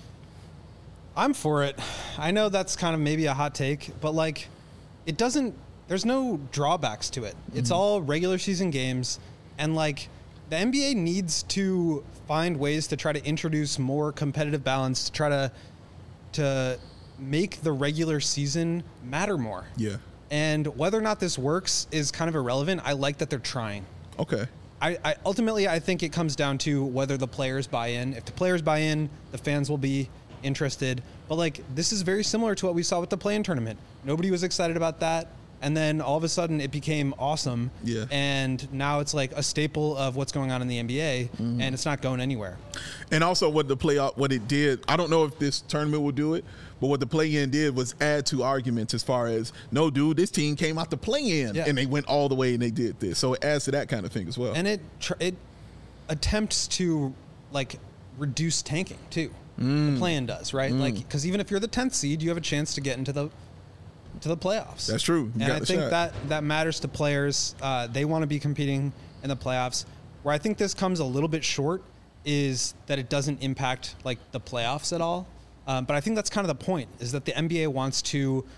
Speaker 3: I'm for it. I know that's kind of maybe a hot take, but like it doesn't, there's no drawbacks to it. It's mm-hmm. all regular season games, and like the N B A needs to find ways to try to introduce more competitive balance, to try to to make the regular season matter more.
Speaker 1: Yeah.
Speaker 3: And whether or not this works is kind of irrelevant. I like that they're trying.
Speaker 1: Okay.
Speaker 3: I, I ultimately I think it comes down to whether the players buy in. If the players buy in, the fans will be interested. But like this is very similar to what we saw with the play-in tournament. Nobody was excited about that. And then all of a sudden it became awesome.
Speaker 1: Yeah.
Speaker 3: And now it's like a staple of what's going on in the N B A, mm-hmm. and it's not going anywhere.
Speaker 1: And also what the playoff, what it did, I don't know if this tournament will do it, but what the play-in did was add to arguments as far as, no, dude, this team came out the play-in, yeah. and they went all the way and they did this. So it adds to that kind of thing as well.
Speaker 3: And it tr- it attempts to like reduce tanking too. Mm. The play-in does, right? Mm. Like, because even if you're the tenth seed, you have a chance to get into the to the playoffs.
Speaker 1: That's true. You
Speaker 3: and I think
Speaker 1: shot.
Speaker 3: that that matters to players. Uh, they want to be competing in the playoffs. Where I think this comes a little bit short is that it doesn't impact like the playoffs at all. Um, but I think that's kind of the point, is that the N B A wants to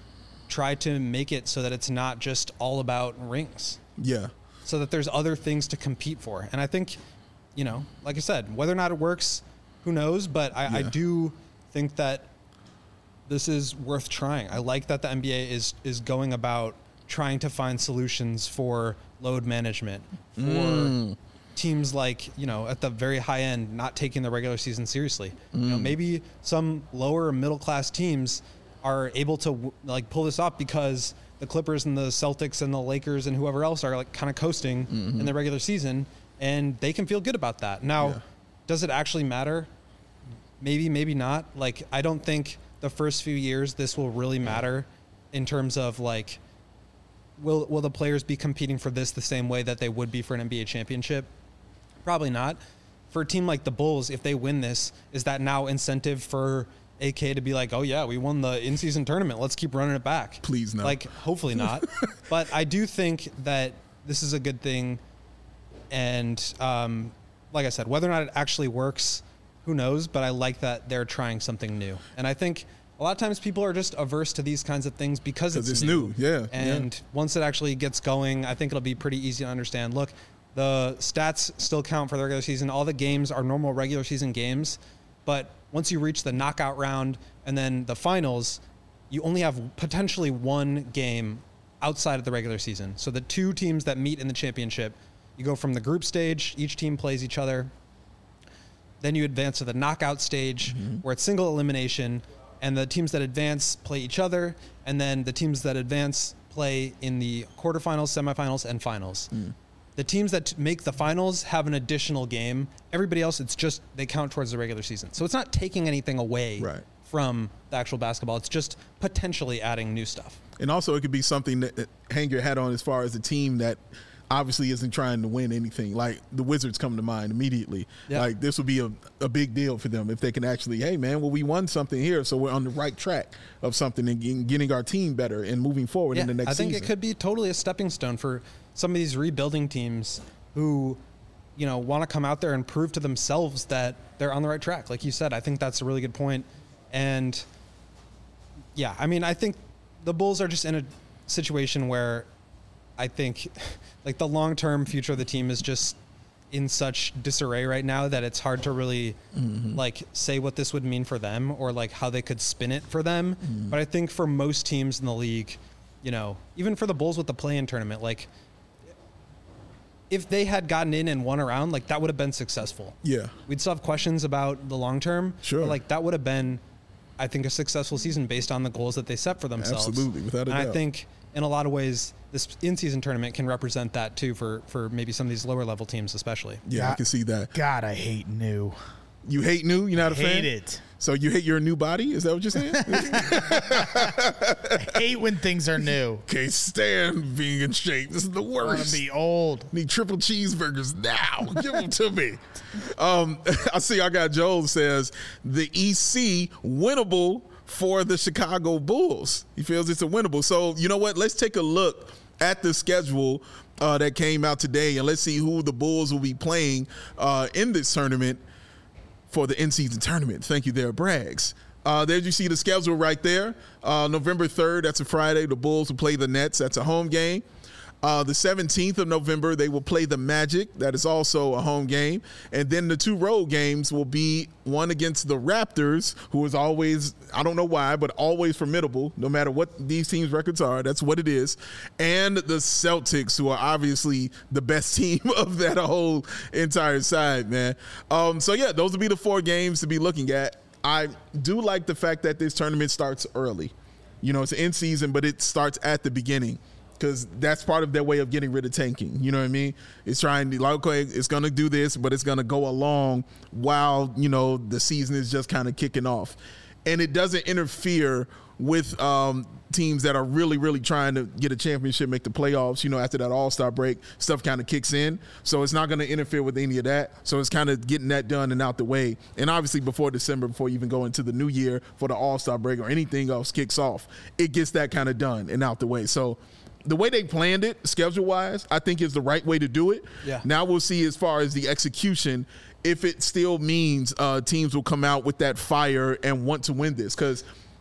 Speaker 3: try to make it so that it's not just all about rings.
Speaker 1: Yeah.
Speaker 3: So that there's other things to compete for. And I think, you know, like I said, whether or not it works, who knows? But I,
Speaker 1: yeah.
Speaker 3: I do think that this is worth trying. I like that the N B A is is going about trying to find solutions for load management, for mm. teams like, you know, at the very high end, not taking the regular season seriously. Mm. You know, maybe some lower middle class teams are able to like pull this off because the Clippers and the Celtics and the Lakers and whoever else are like kind of coasting mm-hmm. in the regular season, and they can feel good about that. Now, yeah. does it actually matter? Maybe, maybe not. Like, I don't think the first few years this will really matter in terms of like, will will the players be competing for this the same way that they would be for an N B A championship? Probably not. For a team like the Bulls, if they win this, is that now incentive for A K to be like, oh yeah, we won the in-season tournament, let's keep running it back?
Speaker 1: Please no.
Speaker 3: Like, hopefully not. But I do think that this is a good thing. And um, like I said, whether or not it actually works, who knows? But I like that they're trying something new. And I think a lot of times people are just averse to these kinds of things because it's,
Speaker 1: it's
Speaker 3: new.
Speaker 1: new. Yeah.
Speaker 3: And
Speaker 1: yeah.
Speaker 3: once it actually gets going, I think it'll be pretty easy to understand. Look, the stats still count for the regular season. All the games are normal regular season games. But once you reach the knockout round and then the finals, you only have potentially one game outside of the regular season. So the two teams that meet in the championship, you go from the group stage, each team plays each other. Then you advance to the knockout stage mm-hmm. where it's single elimination, and the teams that advance play each other, and then the teams that advance play in the quarterfinals, semifinals, and finals. Mm. The teams that make the finals have an additional game. Everybody else, it's just they count towards the regular season. So it's not taking anything away
Speaker 1: right.
Speaker 3: from the actual basketball. It's just potentially adding new stuff.
Speaker 1: And also it could be something that, that hang your hat on as far as a team that obviously isn't trying to win anything. Like the Wizards come to mind immediately. Yeah. Like this would be a, a big deal for them if they can actually, hey man, well we won something here, so we're on the right track of something and getting our team better and moving forward
Speaker 3: yeah,
Speaker 1: in the next season.
Speaker 3: I think
Speaker 1: season.
Speaker 3: It could be totally a stepping stone for some of these rebuilding teams who, you know, want to come out there and prove to themselves that they're on the right track. Like you said, I think that's a really good point. And yeah, I mean, I think the Bulls are just in a situation where I think like the long-term future of the team is just in such disarray right now that it's hard to really mm-hmm. like say what this would mean for them or like how they could spin it for them. Mm-hmm. But I think for most teams in the league, you know, even for the Bulls with the play-in tournament, like if they had gotten in and won a round, like that would have been successful.
Speaker 1: Yeah.
Speaker 3: We'd still have questions about the long-term.
Speaker 1: Sure.
Speaker 3: But like that would have been, I think, a successful season based on the goals that they set for themselves.
Speaker 1: Absolutely, without a
Speaker 3: and
Speaker 1: doubt.
Speaker 3: I think in a lot of ways, this in-season tournament can represent that too for, for maybe some of these lower level teams, especially.
Speaker 1: Yeah, God, I can see that.
Speaker 2: God, I hate new.
Speaker 1: You hate new? You're not a
Speaker 2: I
Speaker 1: fan?
Speaker 2: hate it.
Speaker 1: So you hate your new body? Is that what you're saying?
Speaker 2: I hate when things are new.
Speaker 1: Can't stand being in shape. This is the worst.
Speaker 2: I want to be old.
Speaker 1: Need triple cheeseburgers now. Give them to me. Um, I see I got Joel says the E C winnable for the Chicago Bulls. He feels it's a winnable. So you know what? Let's take a look at the schedule uh, that came out today, and let's see who the Bulls will be playing uh, in this tournament for the in-season tournament. Thank you there, Braggs. Uh, there you see the schedule right there. Uh, November third, that's a Friday, the Bulls will play the Nets. That's a home game. Uh, the seventeenth of November, they will play the Magic. That is also a home game. And then the two road games will be one against the Raptors, who is always, I don't know why, but always formidable, no matter what these teams' records are. That's what it is. And the Celtics, who are obviously the best team of that whole entire side, man. Um, so, yeah, those will be the four games to be looking at. I do like the fact that this tournament starts early. You know, it's in season, but it starts at the beginning. Because that's part of their way of getting rid of tanking. You know what I mean? It's trying to, like, okay, it's going to do this, but it's going to go along while, you know, the season is just kind of kicking off. And it doesn't interfere with um, teams that are really, really trying to get a championship, make the playoffs. You know, after that All-Star break, stuff kind of kicks in. So it's not going to interfere with any of that. So it's kind of getting that done and out the way. And obviously before December, before you even go into the new year for the All-Star break or anything else kicks off, it gets that kind of done and out the way. So the way they planned it, schedule-wise, I think is the right way to do it.
Speaker 3: Yeah.
Speaker 1: Now we'll see as far as the execution, if it still means uh, teams will come out with that fire and want to win this. Because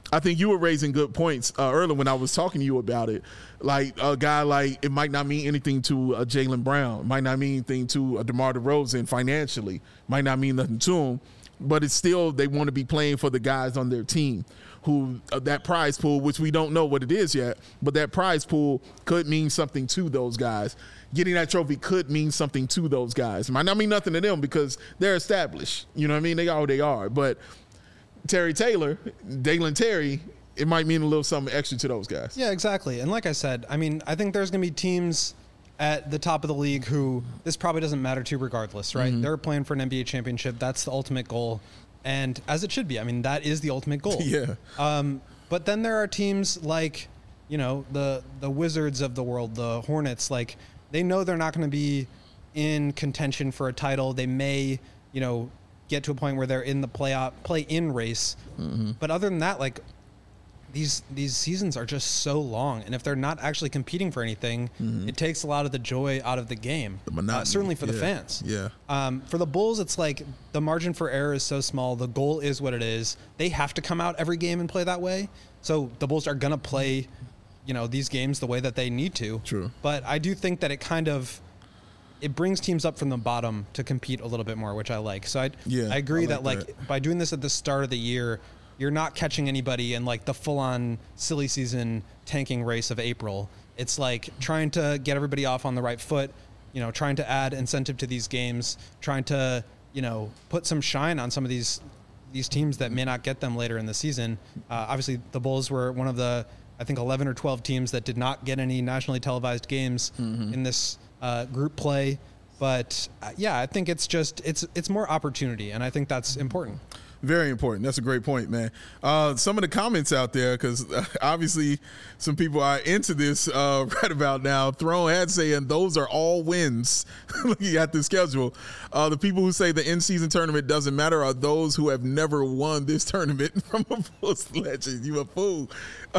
Speaker 1: I think you were raising good points uh, earlier when I was talking to you about it. Like a guy like, it might not mean anything to uh, Jaylen Brown, might not mean anything to uh, DeMar DeRozan financially, might not mean nothing to him, but it's still, they want to be playing for the guys on their team who uh, that prize pool, which we don't know what it is yet, but that prize pool could mean something to those guys. Getting that trophy could mean something to those guys. It might not mean nothing to them because they're established. You know what I mean? They are who they are. But Terry Taylor, Dalen Terry, it might mean a little something extra to those guys.
Speaker 3: Yeah, exactly. And like I said, I mean, I think there's going to be teams at the top of the league who this probably doesn't matter to regardless, right? Mm-hmm. They're playing for an N B A championship. That's the ultimate goal. And as it should be. I mean, that is the ultimate goal.
Speaker 1: Yeah.
Speaker 3: Um, but then there are teams like, you know, the the Wizards of the world, the Hornets, like they know they're not going to be in contention for a title. They may, you know, get to a point where they're in the playoff play-in race. Mm-hmm. But other than that, like these these seasons are just so long, and if they're not actually competing for anything, mm-hmm. it takes a lot of the joy out of the game.
Speaker 1: The monotony.
Speaker 3: Uh, certainly for
Speaker 1: yeah.
Speaker 3: the fans.
Speaker 1: Yeah.
Speaker 3: Um, for the Bulls, it's like the margin for error is so small. The goal is what it is. They have to come out every game and play that way. So the Bulls are gonna play, you know, these games the way that they need to.
Speaker 1: True.
Speaker 3: But I do think that it kind of it brings teams up from the bottom to compete a little bit more, which I like. So I
Speaker 1: yeah,
Speaker 3: I agree
Speaker 1: I like
Speaker 3: that like
Speaker 1: that.
Speaker 3: by doing this at the start of the year, you're not catching anybody in like the full-on silly season tanking race of April. It's like trying to get everybody off on the right foot, you know, trying to add incentive to these games, trying to, you know, put some shine on some of these these teams that may not get them later in the season. Uh, obviously, the Bulls were one of the, I think, eleven or twelve teams that did not get any nationally televised games mm-hmm. in this uh, group play. But uh, yeah, I think it's just it's it's more opportunity, and I think that's important.
Speaker 1: Very important. That's a great point, man. Uh, some of the comments out there, because uh, obviously some people are into this uh, right about now. Throne had saying those are all wins looking at the schedule. Uh, the people who say the in-season tournament doesn't matter are those who have never won this tournament from a Bulls legend. You a fool.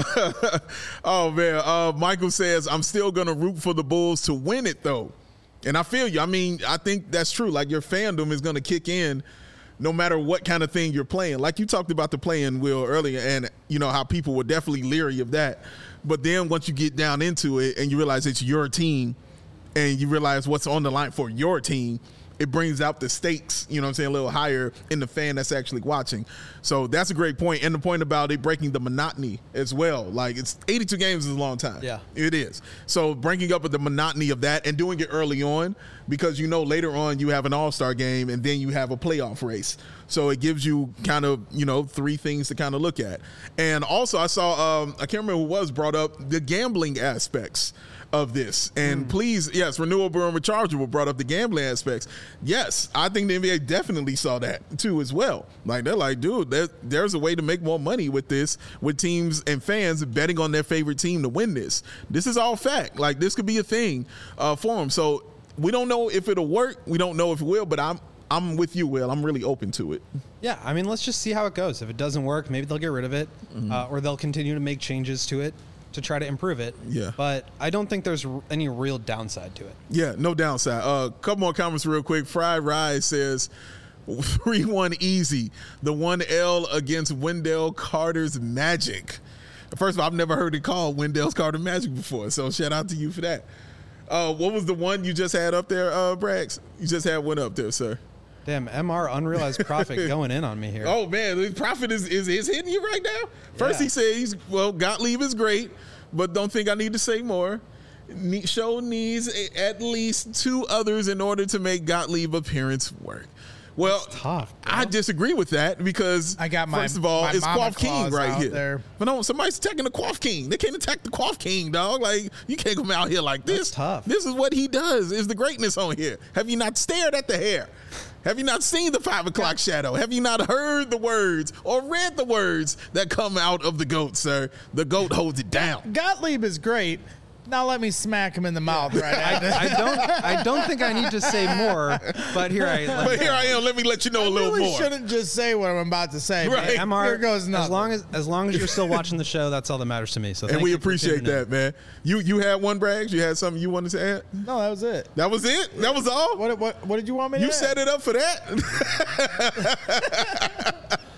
Speaker 1: Oh, man. Uh, Michael says, I'm still going to root for the Bulls to win it, though. And I feel you. I mean, I think that's true. Like, your fandom is going to kick in no matter what kind of thing you're playing. Like you talked about the play-in, Will, earlier, and you know how people were definitely leery of that. But then once you get down into it and you realize it's your team and you realize what's on the line for your team, it brings out the stakes, you know what I'm saying, a little higher in the fan that's actually watching. So that's a great point. And the point about it breaking the monotony as well. Like, it's eighty-two games is a long time.
Speaker 3: Yeah.
Speaker 1: It is. So breaking up with the monotony of that and doing it early on, because you know later on you have an all-star game and then you have a playoff race. So it gives you kind of, you know, three things to kind of look at. And also I saw, um, I can't remember who was brought up, the gambling aspects of this. And mm. please, yes, renewable and rechargeable brought up the gambling aspects. Yes, I think the N B A definitely saw that too as well. Like, they're like, dude, there, there's a way to make more money with this, with teams and fans betting on their favorite team to win this. This is all fact. Like, this could be a thing uh, for them. So we don't know if it'll work. We don't know if it will, but I'm I'm with you, Will. I'm really open to it.
Speaker 3: Yeah, I mean, let's just see how it goes. If it doesn't work, maybe they'll get rid of it, mm-hmm. uh, or they'll continue to make changes to it to try to improve it.
Speaker 1: Yeah.
Speaker 3: But I don't think there's r- any real downside to it.
Speaker 1: Yeah, no downside. A uh, couple more comments real quick. Fried Rise says, three one easy. The one L against Wendell Carter's Magic. First of all, I've never heard it called Wendell Carter Magic before, so shout out to you for that. Uh, what was the one you just had up there, uh, Braggs? You just had one up there, sir.
Speaker 3: Damn, M R unrealized profit going in on me here.
Speaker 1: Oh, man, the profit is, is, is hitting you right now? First
Speaker 3: yeah.
Speaker 1: he said, he's, well, Gottlieb is great, but don't think I need to say more. Ne- show needs a, at least two others in order to make Gottlieb appearance work. Well,
Speaker 3: tough,
Speaker 1: I disagree with that because,
Speaker 2: I got my,
Speaker 1: first of all, it's Quaff King right here.
Speaker 2: There.
Speaker 1: But no, somebody's attacking the Quaff King. They can't attack the Quaff King, dog. Like, you can't come out here like this.
Speaker 3: That's tough.
Speaker 1: This is what he does, is the greatness on here. Have you not stared at the hair? Have you not seen the five o'clock shadow? Have you not heard the words or read the words that come out of the GOAT, sir? The GOAT holds it down.
Speaker 2: Gottlieb is great. Now let me smack him in the mouth right
Speaker 3: I, I don't I don't think I need to say more, but here I
Speaker 1: But here I am. Let me let you know
Speaker 2: I
Speaker 1: a little
Speaker 2: really
Speaker 1: more.
Speaker 2: shouldn't just say what I'm about to say.
Speaker 1: Right.
Speaker 3: M R,
Speaker 2: Here goes nothing.
Speaker 3: as long as as long as you're still watching the show, that's all that matters to me. So
Speaker 1: And
Speaker 3: thank
Speaker 1: we
Speaker 3: you for
Speaker 1: appreciate
Speaker 3: tuning in.
Speaker 1: that, man. You you had one, Braggs? You had something you wanted to add?
Speaker 2: No, that was it.
Speaker 1: That was it? That was all?
Speaker 2: What what what did you want me to
Speaker 1: You
Speaker 2: add?
Speaker 1: set it up for that?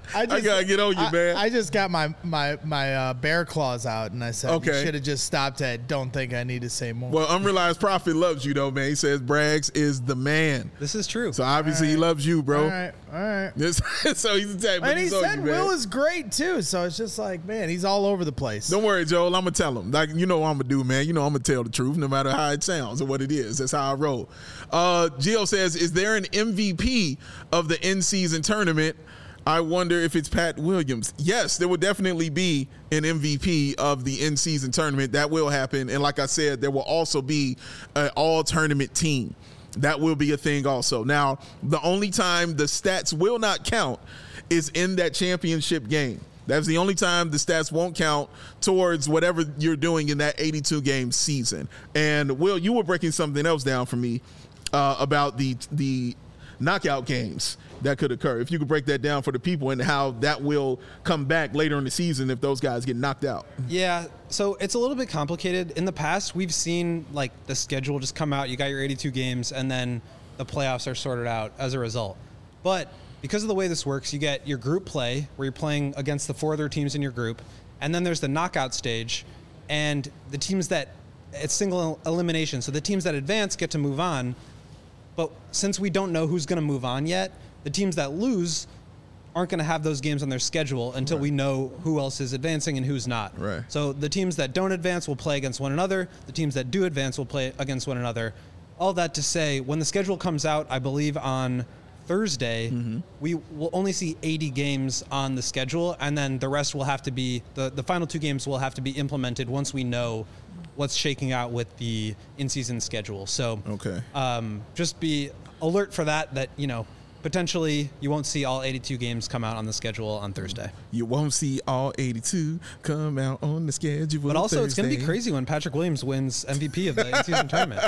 Speaker 1: I, just, I gotta get on you,
Speaker 2: I,
Speaker 1: man.
Speaker 2: I just got my my my uh, bear claws out, and I said,
Speaker 1: Okay.
Speaker 2: you should have just stopped at. Don't think I need to say more.
Speaker 1: Well, Unrealized Prophet loves you, though, man. He says Braggs is the man.
Speaker 3: This is true.
Speaker 1: So obviously he loves you, bro.
Speaker 2: all right, all right.
Speaker 1: This, so he's attacked.
Speaker 2: And he
Speaker 1: he's on
Speaker 2: said
Speaker 1: you,
Speaker 2: Will
Speaker 1: man.
Speaker 2: is great too. So it's just like, man, he's all over the place.
Speaker 1: Don't worry, Joel. I'm gonna tell him. Like you know, what I'm gonna do, man. You know, I'm gonna tell the truth, no matter how it sounds or what it is. That's how I roll. Uh, Gio says, "Is there an M V P of the in-season tournament? I wonder if it's Pat Williams." Yes, there will definitely be an M V P of the in-season tournament. That will happen. And like I said, there will also be an all-tournament team. That will be a thing also. Now, the only time the stats will not count is in that championship game. That's the only time the stats won't count towards whatever you're doing in that eighty-two game season. And Will, you were breaking something else down for me uh, about the the knockout games that could occur. If you could break that down for the people and how that will come back later in the season if those guys get knocked out.
Speaker 3: Yeah, so it's a little bit complicated. In the past, we've seen like the schedule just come out. You got your eighty-two games, and then the playoffs are sorted out as a result. But because of the way this works, you get your group play where you're playing against the four other teams in your group, and then there's the knockout stage, and the teams that it's single elimination. So the teams that advance get to move on. But since we don't know who's going to move on yet, the teams that lose aren't going to have those games on their schedule until right. we know who else is advancing and who's not.
Speaker 1: Right.
Speaker 3: So the teams that don't advance will play against one another. The teams that do advance will play against one another. All that to say, when the schedule comes out, I believe on Thursday, mm-hmm. we will only see eighty games on the schedule, and then the rest will have to be, the, the final two games will have to be implemented once we know what's shaking out with the in-season schedule. So
Speaker 1: okay.
Speaker 3: um, just be alert for that, that, you know, potentially you won't see all eighty-two games come out on the schedule on Thursday.
Speaker 1: You won't see all eighty-two come out on the schedule.
Speaker 3: But also,
Speaker 1: Thursday.
Speaker 3: It's going to be crazy when Patrick Williams wins M V P of the in-season tournament.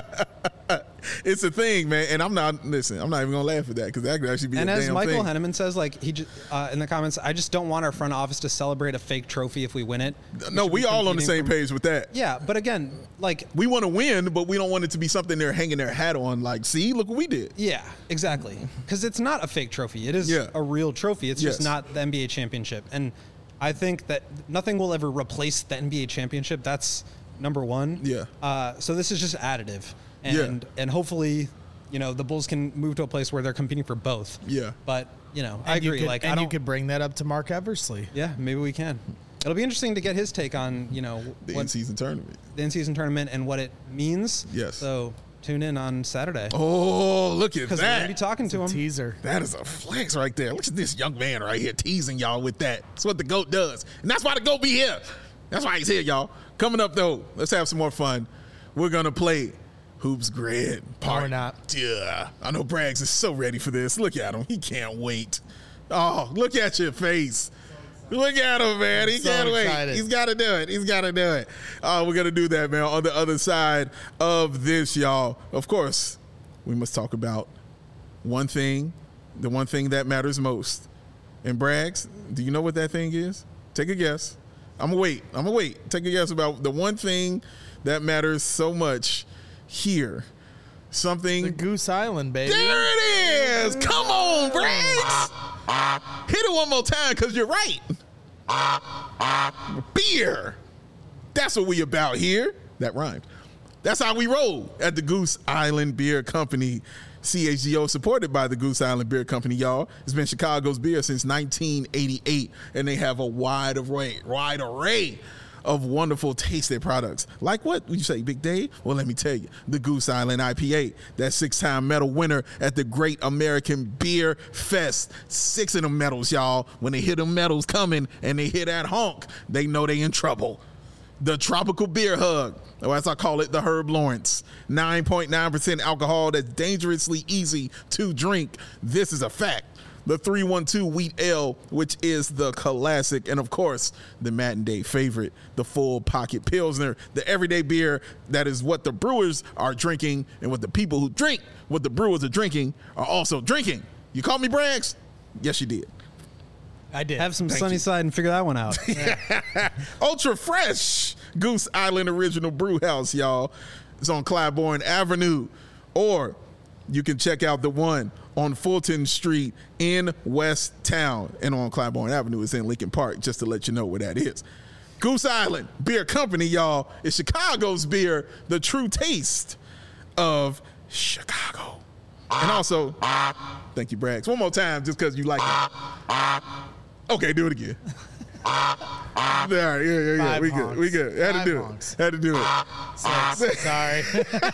Speaker 1: It's a thing, man, and I'm not listen. I'm not even gonna laugh at that because that could actually be.
Speaker 3: And
Speaker 1: a
Speaker 3: as
Speaker 1: damn
Speaker 3: Michael
Speaker 1: thing.
Speaker 3: Henneman says, like he just, uh, in the comments, I just don't want our front office to celebrate a fake trophy if we win it. We
Speaker 1: no, we all on the same
Speaker 3: from,
Speaker 1: page with that.
Speaker 3: Yeah, but again, like
Speaker 1: we want to win, but we don't want it to be something they're hanging their hat on. Like, see, look what we did.
Speaker 3: Yeah, exactly. Because it's not a fake trophy; it is
Speaker 1: yeah.
Speaker 3: a real trophy. It's
Speaker 1: yes.
Speaker 3: just not the N B A championship. And I think that nothing will ever replace the N B A championship. That's number one.
Speaker 1: Yeah.
Speaker 3: Uh, so this is just additive, and
Speaker 1: yeah.
Speaker 3: and hopefully, you know, the Bulls can move to a place where they're competing for both.
Speaker 1: Yeah.
Speaker 3: But you know,
Speaker 2: and
Speaker 3: I agree.
Speaker 2: Could,
Speaker 3: like,
Speaker 2: and
Speaker 3: I don't,
Speaker 2: you could bring that up to Mark Eversley.
Speaker 3: Yeah, maybe we can. It'll be interesting to get his take on, you know,
Speaker 1: the
Speaker 3: what,
Speaker 1: in-season tournament,
Speaker 3: the in-season tournament, and what it means.
Speaker 1: Yes.
Speaker 3: So tune in on Saturday.
Speaker 1: Oh, look at that!
Speaker 3: Because we're gonna be talking to him.
Speaker 2: Teaser.
Speaker 1: That is a flex right there. Look at this young man right here teasing y'all with that. That's what the GOAT does, and that's why the GOAT be here. That's why he's here, y'all. Coming up though, let's have some more fun. We're gonna play Hoops Grid.
Speaker 2: Or not.
Speaker 1: Yeah, I know Braggs is so ready for this. Look at him. He can't wait. Oh, look at your face. Look at him, man. He
Speaker 2: so
Speaker 1: can't
Speaker 2: excited.
Speaker 1: wait. He's got to do it. He's got to do it. Uh, we're going to do that, man, on the other side of this, y'all. Of course, we must talk about one thing, the one thing that matters most. And Braggs, do you know what that thing is? Take a guess. I'm going to wait. I'm going to wait. Take a guess about the one thing that matters so much here. Something.
Speaker 2: The Goose Island, baby.
Speaker 1: There it is. Come on, Braggs. Hit it one more time because you're right. Beer. That's what we about here. That rhymed. That's how we roll at the Goose Island Beer Company. C H G O, supported by the Goose Island Beer Company, y'all. It's been Chicago's beer since nineteen eighty-eight, and they have a wide array, wide array of wonderful tasty products. Like what would you say, Big Dave? Well, let me tell you, the Goose Island I P A, that six-time medal winner at the Great American Beer Fest. Six of them medals, y'all. When they hear them medals coming and they hear that honk, they know they in trouble. The Tropical Beer Hug, or as I call it, the Herb Lawrence. nine point nine percent alcohol that's dangerously easy to drink. This is a fact. The three one two Wheat Ale, which is the classic, and of course, the Matin Day favorite, the Full Pocket Pilsner, the everyday beer that is what the brewers are drinking, and what the people who drink what the brewers are drinking are also drinking. You called me Braggs? Yes, you did.
Speaker 2: I did.
Speaker 3: Have some
Speaker 1: Thank
Speaker 3: sunny
Speaker 1: you.
Speaker 3: side and figure that one out.
Speaker 1: Ultra fresh Goose Island Original Brew House, y'all. It's on Claiborne Avenue. Or you can check out the one on Fulton Street in West Town, and on Claiborne Avenue is in Lincoln Park, just to let you know where that is. Goose Island Beer Company, y'all, is Chicago's beer, the true taste of Chicago. And also, thank you, Braggs. One more time, just because you like it. Okay, do it again. All right, yeah, yeah, yeah.
Speaker 2: Five
Speaker 1: we
Speaker 2: honks.
Speaker 1: good. We good. Had
Speaker 2: Five
Speaker 1: to do
Speaker 2: honks.
Speaker 1: it. Had to do it.
Speaker 2: Six. Sorry.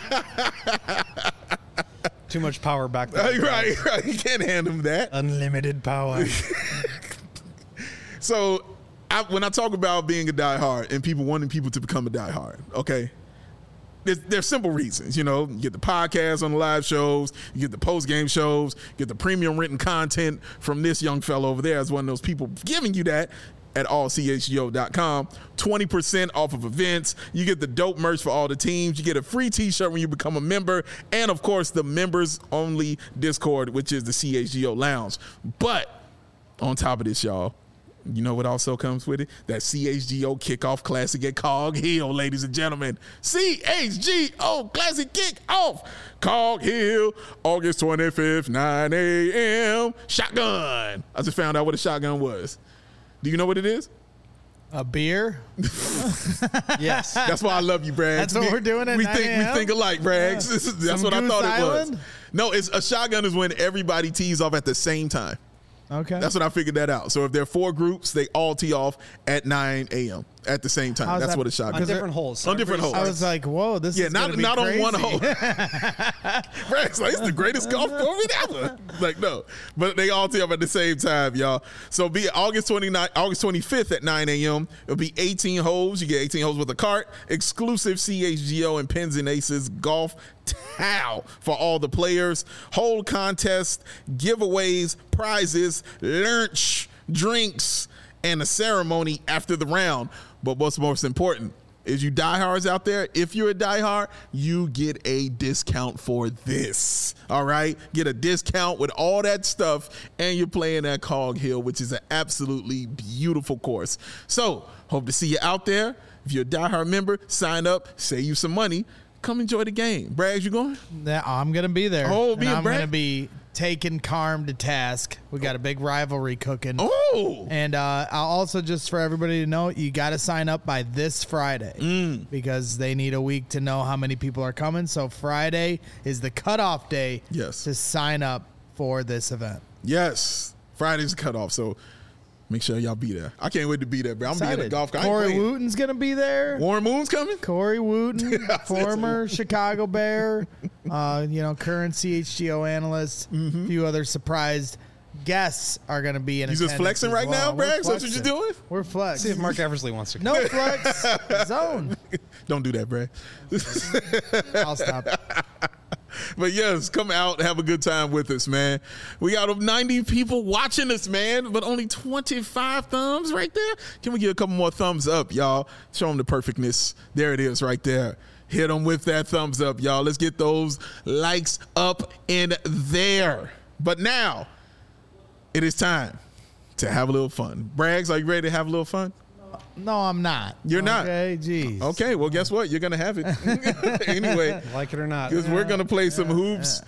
Speaker 3: Too much power back there.
Speaker 1: Right, right. You can't hand them that.
Speaker 3: Unlimited power.
Speaker 1: So, I, when I talk about being a diehard and people wanting people to become a diehard, okay, there's, there's simple reasons. You know, you get the podcast on the live shows, you get the post game shows, you get the premium written content from this young fellow over there as one of those people giving you that at all c h g o dot com. twenty percent off of events. You get the dope merch for all the teams. You get a free t-shirt when you become a member. And, of course, the members-only Discord, which is the C H G O Lounge. But on top of this, y'all, you know what also comes with it? That C H G O Kickoff Classic at Cog Hill, ladies and gentlemen. C H G O Classic Kickoff, Cog Hill, August twenty-fifth, nine a.m. Shotgun. I just found out what a shotgun was. Do you know what it is?
Speaker 2: A beer?
Speaker 3: Yes.
Speaker 1: That's why I love you, Braggs.
Speaker 2: That's what
Speaker 1: We-
Speaker 2: we're doing at
Speaker 1: we
Speaker 2: nine
Speaker 1: think
Speaker 2: a.m.?
Speaker 1: We think alike, Braggs. This is- That's
Speaker 2: Some
Speaker 1: what I
Speaker 2: Goose
Speaker 1: thought it was.
Speaker 2: Island?
Speaker 1: No, it's a shotgun is when everybody tees off at the same time.
Speaker 2: Okay.
Speaker 1: That's what I figured that out. So if there are four groups, they all tee off at nine a.m. at the same time.
Speaker 2: How's
Speaker 1: That's
Speaker 2: that-
Speaker 1: what a shotgun
Speaker 3: On
Speaker 1: is.
Speaker 3: different holes. So
Speaker 1: On different
Speaker 3: everybody
Speaker 1: holes.
Speaker 2: I was like, whoa, this
Speaker 1: Yeah,
Speaker 2: is
Speaker 1: not
Speaker 2: gonna be
Speaker 1: not
Speaker 2: crazy.
Speaker 1: on one hole. Bragg's like, it's the greatest golf tournament ever. Like, no. But they all tee up at the same time, y'all. So be August twenty-ninth, August twenty-fifth at nine a.m. It'll be eighteen holes. You get eighteen holes with a cart. Exclusive C H G O and Pins and Aces golf towel for all the players. Hole contest, giveaways, prizes, lunch, drinks, and a ceremony after the round. But what's most important is you diehards out there, if you're a diehard, you get a discount for this. All right? Get a discount with all that stuff, and you're playing at Cog Hill, which is an absolutely beautiful course. So, hope to see you out there. If you're a diehard member, sign up, save you some money. Come enjoy the game. Braggs, you going?
Speaker 2: Yeah, I'm going to be there.
Speaker 1: Oh,
Speaker 2: and
Speaker 1: me and
Speaker 2: I'm
Speaker 1: Brad?
Speaker 2: going to be taking Carm to task. We got a big rivalry cooking.
Speaker 1: Oh!
Speaker 2: And uh, I'll also, just for everybody to know, you got to sign up by this Friday
Speaker 1: Mm.
Speaker 2: because they need a week to know how many people are coming. So Friday is the cutoff day
Speaker 1: Yes.
Speaker 2: to sign up for this event.
Speaker 1: Yes. Friday's the cutoff, so make sure y'all be there. I can't wait to be there, bro. I'm being a
Speaker 2: Excited.
Speaker 1: golf guy. I ain't
Speaker 2: Corey
Speaker 1: playing.
Speaker 2: Wooten's going to be there.
Speaker 1: Warren Moon's coming?
Speaker 2: Corey Wooten,
Speaker 1: I said
Speaker 2: former Chicago Bear, uh, you know, current C H G O analyst. A few other surprised guests are going to be in
Speaker 1: You just
Speaker 2: attendance
Speaker 1: flexing
Speaker 2: as
Speaker 1: right
Speaker 2: well.
Speaker 1: now,
Speaker 2: We're
Speaker 1: Braggs? That's what you're
Speaker 2: flexing.
Speaker 1: doing?
Speaker 2: We're flex.
Speaker 3: See if Mark Eversley wants to come.
Speaker 2: No flex zone.
Speaker 1: Don't do that, Brad.
Speaker 2: I'll stop.
Speaker 1: But yes, come out, have a good time with us, man. We got ninety people watching us, man, but only twenty-five thumbs right there. Can we get a couple more thumbs up, y'all? Show them the perfectness. There it is right there. Hit them with that thumbs up, y'all. Let's get those likes up in there. But now, it is time to have a little fun. Braggs, are you ready to have a little fun?
Speaker 2: No, I'm not.
Speaker 1: You're not?
Speaker 2: Okay, geez.
Speaker 1: Okay, well, guess what? You're going to have it. Anyway.
Speaker 3: Like it or not.
Speaker 1: Because we're going to play some hoops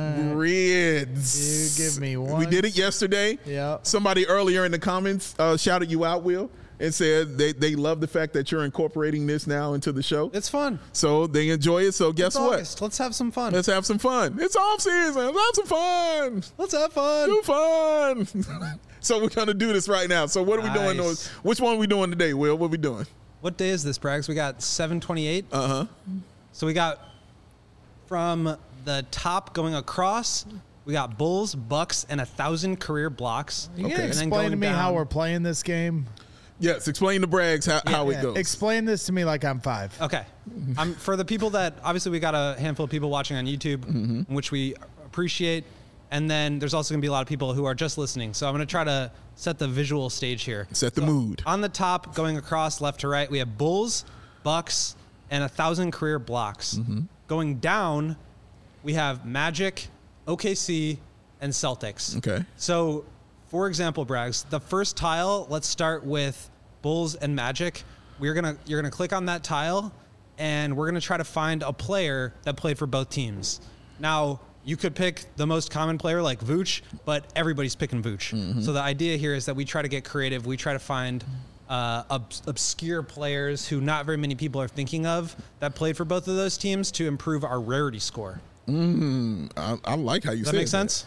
Speaker 1: grids.
Speaker 2: You give me
Speaker 1: We
Speaker 2: one.
Speaker 1: did it yesterday.
Speaker 2: Yep.
Speaker 1: Somebody earlier in the comments uh, shouted you out, Will, and said they, they love the fact that you're incorporating this now into the show.
Speaker 3: It's fun.
Speaker 1: So they enjoy it. So guess
Speaker 3: It's
Speaker 1: what?
Speaker 3: August. Let's have some fun.
Speaker 1: Let's have some fun. It's off season. Let's have some fun.
Speaker 3: Let's have fun.
Speaker 1: Do fun. So we're going to do this right now. So what are we doing?
Speaker 3: Nice.
Speaker 1: Which one are we doing today, Will? What are we doing?
Speaker 3: What day is this, Braggs? We got seven twenty-eight.
Speaker 1: Uh-huh.
Speaker 3: So we got from the top going across, we got Bulls, Bucks, and a thousand career blocks.
Speaker 2: You
Speaker 1: Okay.
Speaker 2: can
Speaker 1: And
Speaker 3: then
Speaker 2: explain to
Speaker 3: going
Speaker 2: me how
Speaker 3: down-
Speaker 2: we're playing this game?
Speaker 1: Yes, explain to Braggs how, how
Speaker 2: Yeah,
Speaker 1: it goes.
Speaker 2: Explain this to me like I'm five.
Speaker 3: Okay. Um, for the people that, obviously we got a handful of people watching on YouTube,
Speaker 1: Mm-hmm.
Speaker 3: which we appreciate. And then there's also going to be a lot of people who are just listening. So I'm going to try to set the visual stage here.
Speaker 1: Set the mood.
Speaker 3: On the top, going across left to right, we have Bulls, Bucks, and a thousand career blocks.
Speaker 1: Mm-hmm.
Speaker 3: Going down, we have Magic, O K C, and Celtics.
Speaker 1: Okay.
Speaker 3: So, for example, Braggs, the first tile, let's start with Bulls and Magic. We're gonna you're gonna click on that tile, and we're gonna try to find a player that played for both teams. Now, You could pick the most common player like Vooch, but everybody's picking Vooch. Mm-hmm. So the idea here is that we try to get creative. We try to find uh, ob- obscure players who not very many people are thinking of that played for both of those teams to improve our rarity score.
Speaker 1: Mm, I, I like how you
Speaker 3: Does
Speaker 1: said
Speaker 3: that make sense?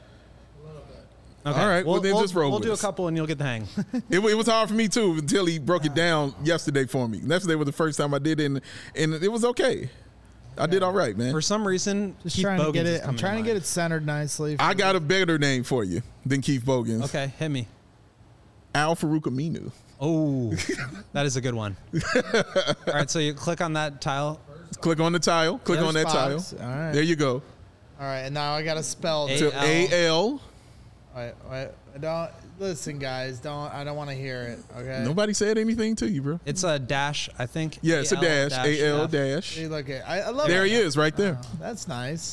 Speaker 1: That. Okay. All right. Well,
Speaker 3: we'll,
Speaker 1: then
Speaker 3: we'll,
Speaker 1: just roll
Speaker 3: We'll
Speaker 1: with
Speaker 3: do a
Speaker 1: us.
Speaker 3: couple and you'll get the hang.
Speaker 1: It, it was hard for me too until he broke it down yesterday for me. Yesterday was the first time I did it, and, and it was okay. I did all right, man.
Speaker 3: For some reason,
Speaker 2: Just
Speaker 3: Keith
Speaker 2: trying
Speaker 3: Bogans
Speaker 2: to get
Speaker 3: is
Speaker 2: it. I'm
Speaker 3: coming
Speaker 2: trying to
Speaker 3: mind.
Speaker 2: get it centered nicely.
Speaker 1: I got a better name for you than Keith Bogans.
Speaker 3: Okay, hit me.
Speaker 1: Al Farouk Aminu.
Speaker 3: Oh, that is a good one. All right, so you click on that tile.
Speaker 1: Click on the tile. Click
Speaker 2: There's
Speaker 1: on that
Speaker 2: box.
Speaker 1: tile.
Speaker 2: All right.
Speaker 1: There you go.
Speaker 2: All right, and now I got to spell
Speaker 3: A-
Speaker 2: this.
Speaker 1: To A L.
Speaker 2: Wait, wait, don't listen, guys. Don't I don't want to hear it. Okay.
Speaker 1: Nobody said anything to you, bro.
Speaker 3: It's a dash, I think.
Speaker 1: Yeah, it's a
Speaker 3: A L
Speaker 1: dash. A L
Speaker 3: F.
Speaker 1: dash.
Speaker 2: Hey, look at I, I love
Speaker 1: There
Speaker 2: it.
Speaker 1: he is, right there.
Speaker 2: Oh, that's nice.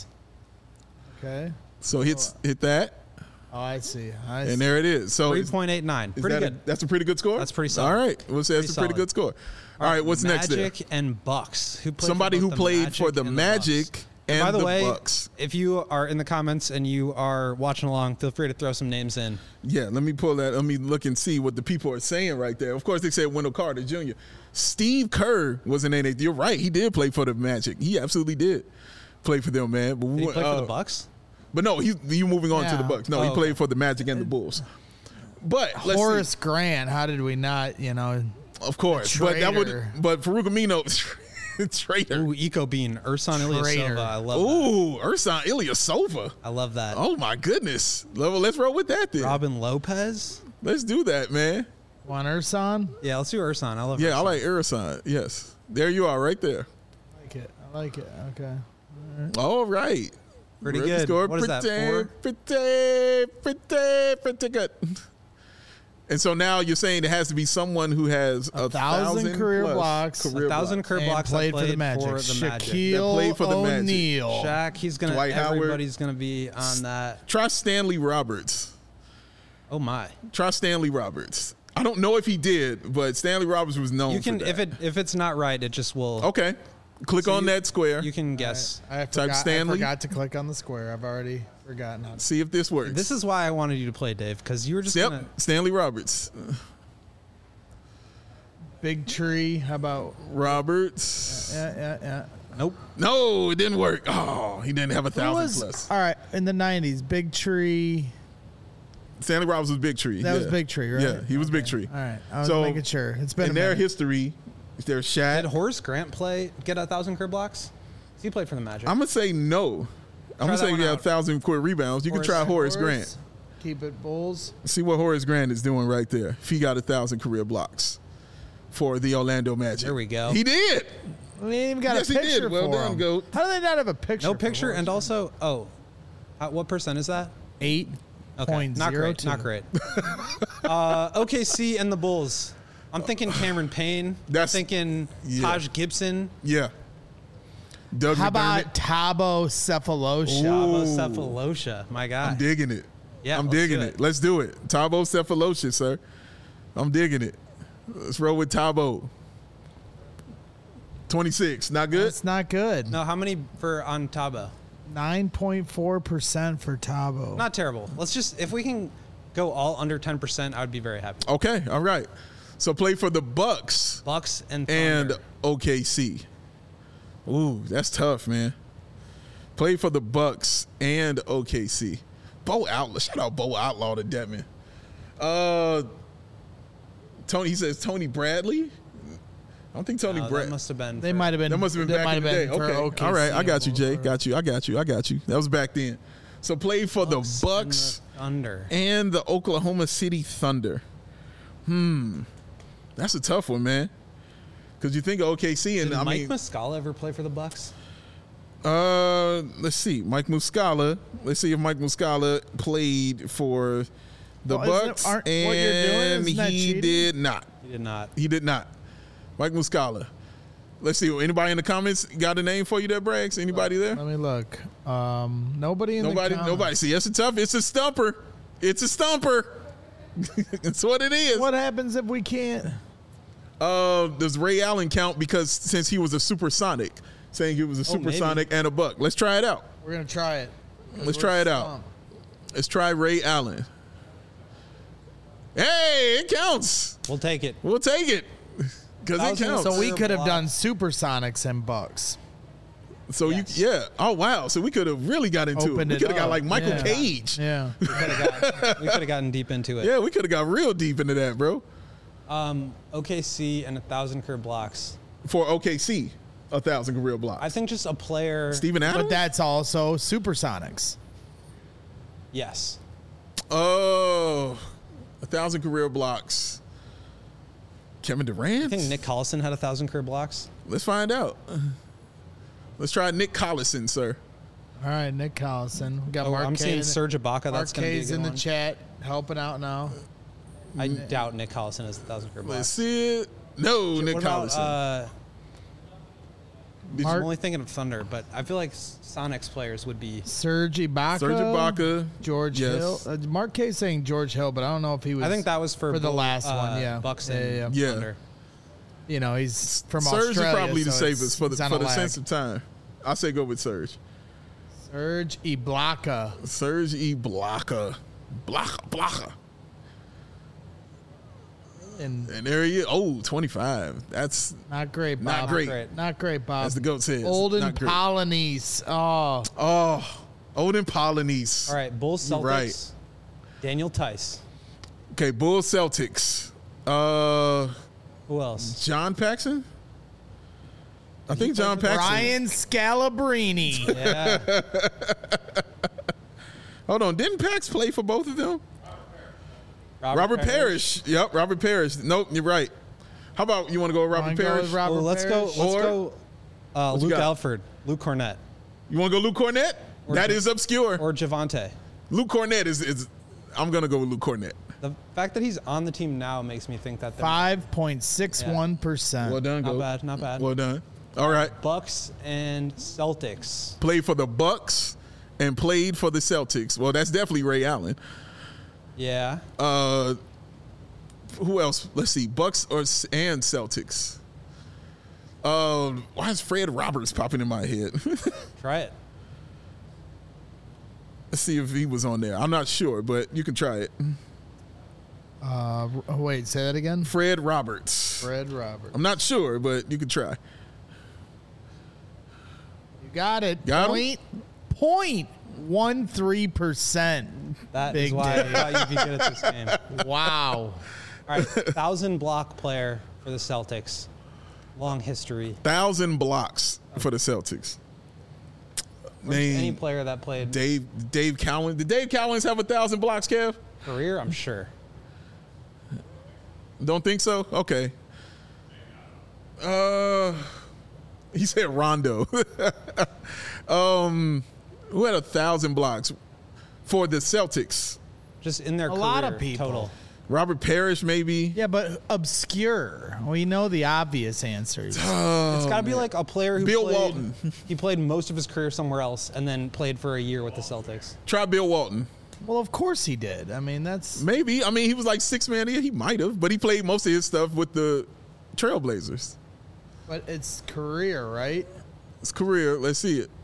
Speaker 2: Okay.
Speaker 1: So hit hit that,
Speaker 2: Oh, I see. I
Speaker 1: and
Speaker 2: see.
Speaker 1: there it is. So
Speaker 3: three
Speaker 1: is,
Speaker 3: point eight nine.
Speaker 1: is
Speaker 3: Pretty
Speaker 1: that a-
Speaker 3: good.
Speaker 1: that's a pretty good score.
Speaker 3: That's pretty solid.
Speaker 1: All right. Well, so that's
Speaker 3: Pretty
Speaker 1: a pretty
Speaker 3: solid.
Speaker 1: good score. All right. What's next there?
Speaker 3: Magic and Bucks. Who played
Speaker 1: Somebody
Speaker 3: for
Speaker 1: who
Speaker 3: both the
Speaker 1: played
Speaker 3: Magic
Speaker 1: for the
Speaker 3: and
Speaker 1: Magic
Speaker 3: Bucks.
Speaker 1: and
Speaker 3: By the,
Speaker 1: the
Speaker 3: way,
Speaker 1: Bucks.
Speaker 3: if you are in the comments and you are watching along, feel free to throw some names in.
Speaker 1: Yeah, let me pull that. Let me look and see what the people are saying right there. Of course, they said Wendell Carter Junior Steve Kerr was an N A. You're right. He did play for the Magic. He absolutely did play for them, man. But
Speaker 3: Did he
Speaker 1: we-
Speaker 3: play
Speaker 1: uh,
Speaker 3: for the Bucks?
Speaker 1: But no, he you moving on to
Speaker 2: Yeah.
Speaker 1: the Bucks. No,
Speaker 3: Oh,
Speaker 1: he
Speaker 3: okay.
Speaker 1: played for the Magic and the Bulls. But let's
Speaker 2: Horace
Speaker 1: see.
Speaker 2: Grant. How did we not? You know.
Speaker 1: Of course, but that would.
Speaker 2: Traitor.
Speaker 1: But Farouk Amino, traitor.
Speaker 3: Ooh, Eco Bean, Ursan
Speaker 2: Traitor.
Speaker 3: Ilyasova. I love that.
Speaker 1: Ooh, Ursan Ilyasova.
Speaker 3: I love that.
Speaker 1: Oh my goodness. Level. Let's roll with that then.
Speaker 3: Robin Lopez.
Speaker 1: Let's do that, man.
Speaker 2: Juan Ursan.
Speaker 3: Yeah, let's do Ursan. I love.
Speaker 1: Yeah, I
Speaker 3: Ursan.
Speaker 1: like Ursan. Yes, there you are, right there.
Speaker 2: I like it. I like it. Okay.
Speaker 1: All right.
Speaker 3: Pretty
Speaker 1: Really
Speaker 3: good.
Speaker 1: scored
Speaker 3: What is that,
Speaker 1: pretty,
Speaker 3: four?
Speaker 1: Pretty, pretty, pretty good. And so now you're saying it has to be someone who has a,
Speaker 2: A thousand career
Speaker 1: plus
Speaker 2: blocks.
Speaker 1: career
Speaker 3: A thousand
Speaker 1: blocks.
Speaker 3: career
Speaker 2: And
Speaker 3: blocks.
Speaker 2: played
Speaker 3: that
Speaker 2: for the Magic.
Speaker 3: For the Magic.
Speaker 1: That
Speaker 2: Shaquille
Speaker 1: played for the Magic.
Speaker 2: O'Neal.
Speaker 3: Shaq. He's gonna.
Speaker 1: Dwight Howard.
Speaker 3: everybody's gonna be on that.
Speaker 1: Try Stanley Roberts.
Speaker 3: Oh my.
Speaker 1: Try Stanley Roberts. I don't know if he did, but Stanley Roberts was known
Speaker 3: You can
Speaker 1: for that.
Speaker 3: if it if it's not right, it just will.
Speaker 1: Okay. Click
Speaker 3: So
Speaker 1: on
Speaker 3: you-
Speaker 1: that square.
Speaker 3: You can guess.
Speaker 2: I forgot, I
Speaker 1: Stanley.
Speaker 2: forgot to click on the square. I've already forgotten how to.
Speaker 1: See if this works.
Speaker 3: This is why I wanted you to play, Dave, because you were just
Speaker 1: Yep.
Speaker 3: gonna.
Speaker 1: Stanley Roberts.
Speaker 2: Big tree. How about?
Speaker 1: Roberts.
Speaker 2: Yeah, yeah, yeah.
Speaker 3: Nope.
Speaker 1: No, it didn't work. Oh, he didn't have a
Speaker 2: Who
Speaker 1: thousand
Speaker 2: was
Speaker 1: plus.
Speaker 2: all right in the nineties? Big tree.
Speaker 1: Stanley Roberts was Big Tree.
Speaker 2: That was
Speaker 1: yeah.
Speaker 2: Big Tree, right?
Speaker 1: Yeah, he was Big Tree.
Speaker 2: All right, I was
Speaker 1: So,
Speaker 2: making sure. It's been
Speaker 1: In
Speaker 2: a
Speaker 1: their
Speaker 2: minute.
Speaker 1: history, there's
Speaker 3: Did
Speaker 1: Shaq.
Speaker 3: Horace Grant play get a thousand career blocks? He played for the Magic.
Speaker 1: I'm gonna say no. I'm
Speaker 3: Try
Speaker 1: gonna
Speaker 3: that
Speaker 1: say
Speaker 3: one
Speaker 1: you have
Speaker 3: out.
Speaker 1: thousand quick rebounds. You can try Horace Grant.
Speaker 2: Keep it Bulls.
Speaker 1: See what Horace Grant is doing right there. If he got a thousand career blocks for the Orlando Magic.
Speaker 3: There we go.
Speaker 1: He did.
Speaker 2: We ain't even got
Speaker 1: Yes,
Speaker 2: a
Speaker 1: he did.
Speaker 2: picture
Speaker 1: Well
Speaker 2: for
Speaker 1: done,
Speaker 2: him.
Speaker 1: Goat.
Speaker 2: How do they not have a picture?
Speaker 3: no
Speaker 2: for
Speaker 3: picture,
Speaker 2: Horace
Speaker 3: and
Speaker 2: Grant?
Speaker 3: also, oh, how, what percent is that?
Speaker 2: eight
Speaker 3: Okay,
Speaker 2: point
Speaker 3: not
Speaker 2: zero
Speaker 3: great.
Speaker 2: two.
Speaker 3: Not great. uh, O K C and the Bulls. I'm thinking Cameron Payne.
Speaker 1: That's-
Speaker 3: I'm thinking
Speaker 1: yeah.
Speaker 3: Taj Gibson.
Speaker 1: Yeah. Doug
Speaker 2: How
Speaker 1: McDermott.
Speaker 2: about Tabo Cephalosha?
Speaker 3: Chavo
Speaker 1: Ooh.
Speaker 3: Cephalosha. My God.
Speaker 1: I'm digging it.
Speaker 3: Yeah,
Speaker 1: I'm
Speaker 3: let's
Speaker 1: digging
Speaker 3: do
Speaker 1: it.
Speaker 3: it.
Speaker 1: Let's do it. Tabo Cephalosha, sir. I'm digging it. Let's roll with Tabo. twenty-six. Not good?
Speaker 2: That's not good.
Speaker 3: No, how many for on Tabo?
Speaker 2: Nine point four percent for Tabo.
Speaker 3: Not terrible. Let's just if we can go all under ten percent, I would be very happy.
Speaker 1: Okay. All right. So play for the Bucks
Speaker 3: Bucks and
Speaker 1: and
Speaker 3: Thunder.
Speaker 1: O K C. Ooh, that's tough, man. Play for the Bucks and O K C. Bo Outlaw. Shout out Bo Outlaw to Devin. Uh, Tony. He says Tony Bradley. I don't think Tony
Speaker 3: Uh, that
Speaker 1: Bradley.
Speaker 3: must have been.
Speaker 2: They
Speaker 3: for-
Speaker 2: might have been.
Speaker 1: That must have been
Speaker 2: that
Speaker 1: back in the
Speaker 2: might
Speaker 1: day.
Speaker 2: have been for
Speaker 1: Okay.
Speaker 2: O K C
Speaker 1: All right. I got you,
Speaker 2: and
Speaker 1: Jay.
Speaker 2: Bulls.
Speaker 1: Got you. I got you. I got you. That was back then. So play for the
Speaker 3: Bucks
Speaker 1: Bucks
Speaker 3: and the Thunder.
Speaker 1: and the Oklahoma City Thunder. Hmm. That's a tough one, man. Because you think of O K C and
Speaker 3: Did
Speaker 1: I
Speaker 3: Mike
Speaker 1: mean,
Speaker 3: Muscala ever play for the Bucks?
Speaker 1: uh, let's see, Mike Muscala. Let's see if Mike Muscala played for the
Speaker 2: Well, isn't it-
Speaker 1: Bucks,
Speaker 2: aren't- what you're doing,
Speaker 1: and
Speaker 2: isn't that
Speaker 1: he
Speaker 2: cheating?
Speaker 1: did not.
Speaker 3: He did not.
Speaker 1: He did not. Mike Muscala. Let's see. Anybody in the comments got a name for you there, Braggs? Anybody there?
Speaker 2: Let me look. Um, nobody in
Speaker 1: Nobody.
Speaker 2: the comments.
Speaker 1: Nobody. See, that's a tough. It's a stumper. It's a stumper. That's what it is.
Speaker 2: What happens if we can't?
Speaker 1: Uh, does Ray Allen count because since he was a supersonic, saying he was a
Speaker 3: Oh, maybe.
Speaker 1: supersonic and a buck? Let's try it out.
Speaker 2: We're gonna try it.
Speaker 1: Let's try it out. Let's try Ray Allen. Hey, it counts.
Speaker 3: We'll take it.
Speaker 1: We'll take it because it
Speaker 3: Thousand-
Speaker 1: counts.
Speaker 2: So we could have
Speaker 3: Blocks.
Speaker 2: done Supersonics and Bucks.
Speaker 1: So
Speaker 3: Yes.
Speaker 1: you, yeah. Oh wow. So we could have really got into
Speaker 2: Opened
Speaker 1: it. We
Speaker 2: it
Speaker 1: could have got
Speaker 2: up.
Speaker 1: like Michael
Speaker 2: Yeah.
Speaker 1: Cage.
Speaker 2: Yeah.
Speaker 3: We could have got, we could have gotten deep into it.
Speaker 1: Yeah, we could have got real deep into that, bro.
Speaker 3: Um, O K C and a thousand career blocks.
Speaker 1: For O K C, a thousand career blocks.
Speaker 3: I think just a player.
Speaker 1: Steven Adams.
Speaker 2: But that's also Supersonics.
Speaker 3: Yes.
Speaker 1: Oh, a thousand career blocks. Kevin Durant.
Speaker 3: I think Nick Collison had a thousand career blocks.
Speaker 1: Let's find out. Let's try Nick Collison, sir.
Speaker 2: All right, Nick Collison. We got
Speaker 3: Oh,
Speaker 2: Mark
Speaker 3: I'm
Speaker 2: K
Speaker 3: seeing
Speaker 2: in-
Speaker 3: Serge Ibaka. That's going to be a
Speaker 2: Marquez
Speaker 3: good
Speaker 2: in the
Speaker 3: one.
Speaker 2: chat helping out now.
Speaker 3: I doubt Nick Collison has a thousand career
Speaker 1: Let's
Speaker 3: blocks.
Speaker 1: see it. No, Nick
Speaker 3: What about,
Speaker 1: Collison.
Speaker 3: uh,
Speaker 1: Did
Speaker 3: I'm
Speaker 2: Mark-
Speaker 3: only thinking of Thunder, but I feel like Sonics players would be.
Speaker 2: Serge Ibaka.
Speaker 1: Serge Ibaka.
Speaker 2: George
Speaker 1: Yes.
Speaker 2: Hill. Uh, Mark K saying George Hill, but I don't know if he was.
Speaker 3: I think that was for,
Speaker 2: for the
Speaker 3: both,
Speaker 2: last
Speaker 3: uh,
Speaker 2: one, yeah.
Speaker 3: Bucks
Speaker 2: Yeah,
Speaker 3: and
Speaker 2: yeah,
Speaker 1: yeah.
Speaker 3: Thunder.
Speaker 2: You know, he's from
Speaker 1: Serge
Speaker 2: Australia.
Speaker 1: is probably the
Speaker 2: so it's-
Speaker 1: safest for the
Speaker 2: it's on
Speaker 1: for
Speaker 2: a
Speaker 1: the
Speaker 2: lag.
Speaker 1: sense of time. I say go with Serge.
Speaker 2: Serge Ibaka.
Speaker 1: Serge Ibaka. Blaka. Blaka.
Speaker 2: And
Speaker 1: And there he is. Oh, twenty-five. That's
Speaker 2: not great, Bob.
Speaker 1: not great.
Speaker 3: great.
Speaker 2: Not great, Bob.
Speaker 1: As the GOAT says.
Speaker 2: Olden
Speaker 1: not great.
Speaker 2: Polonese. Oh,
Speaker 1: Oh, Olden Polonese.
Speaker 3: All right, Bulls Celtics.
Speaker 1: Right.
Speaker 3: Daniel Tice.
Speaker 1: Okay, Bulls Celtics. Uh,
Speaker 3: Who else?
Speaker 1: John Paxson? I think John
Speaker 3: play for-
Speaker 1: Paxson.
Speaker 2: Ryan Scalabrine.
Speaker 3: Yeah.
Speaker 1: Hold on. Didn't Pax play for both of them?
Speaker 3: Robert,
Speaker 1: Robert Parrish. Yep, Robert Parrish. Nope, you're right. How about you want to go with Robert
Speaker 2: Wanna go
Speaker 1: Parrish?
Speaker 2: with Robert
Speaker 3: Well, let's go.
Speaker 2: Parrish?
Speaker 3: Let's
Speaker 1: Or-
Speaker 3: go. Uh,
Speaker 1: What you
Speaker 3: Luke
Speaker 1: got?
Speaker 3: Alford, Luke Cornett,
Speaker 1: You want to go Luke Cornett?
Speaker 3: Or
Speaker 1: That
Speaker 3: Jo-
Speaker 1: is obscure.
Speaker 3: or Javante.
Speaker 1: Luke Cornett is, is I'm going to go with Luke Cornett.
Speaker 3: The fact that he's on the team now makes me think that they're
Speaker 2: Five point six one percent.
Speaker 1: Well done,
Speaker 3: not
Speaker 1: go.
Speaker 3: bad. Not bad.
Speaker 1: Well done. All right.
Speaker 3: Bucks and Celtics.
Speaker 1: Played for the Bucks and played for the Celtics. Well, that's definitely Ray Allen.
Speaker 3: Yeah.
Speaker 1: Uh, who else? Let's see. Bucks or and Celtics. Uh, why is Fred Roberts popping in my head?
Speaker 3: Try it.
Speaker 1: Let's see if he was on there. I'm not sure, but you can try it.
Speaker 2: Uh, r- wait, say that again.
Speaker 1: Fred Roberts.
Speaker 2: Fred Roberts.
Speaker 1: I'm not sure, but you can try.
Speaker 2: You got it.
Speaker 1: Got him?
Speaker 2: Point point one three percent.
Speaker 3: That is
Speaker 2: Big
Speaker 3: why
Speaker 2: Dave.
Speaker 3: I thought you'd be good at this game.
Speaker 2: Wow.
Speaker 3: All right, thousand block player for the Celtics. Long history.
Speaker 1: Thousand blocks for the Celtics.
Speaker 3: Or just any
Speaker 1: Name
Speaker 3: player that played
Speaker 1: Dave Dave Cowan. Did Dave Cowens have a thousand blocks, Kev?
Speaker 3: career, I'm sure.
Speaker 1: Don't think so? Okay. Uh, he said Rondo. um, who had a thousand blocks for the Celtics?
Speaker 3: Just in their
Speaker 2: A
Speaker 3: career
Speaker 2: lot of people.
Speaker 3: total.
Speaker 1: Robert Parrish, maybe.
Speaker 2: Yeah, but obscure. We know the obvious answers.
Speaker 3: It's got to be like a player who
Speaker 1: Bill
Speaker 3: played,
Speaker 1: Walton.
Speaker 3: He played most of his career somewhere else and then played for a year with the Celtics.
Speaker 1: Try Bill Walton.
Speaker 2: Well, of course he did. I mean, that's
Speaker 1: Maybe. I mean, he was like six man. Yeah, he might have, but he played most of his stuff with the Trailblazers.
Speaker 2: but it's career, right?
Speaker 1: His career. Let's see it.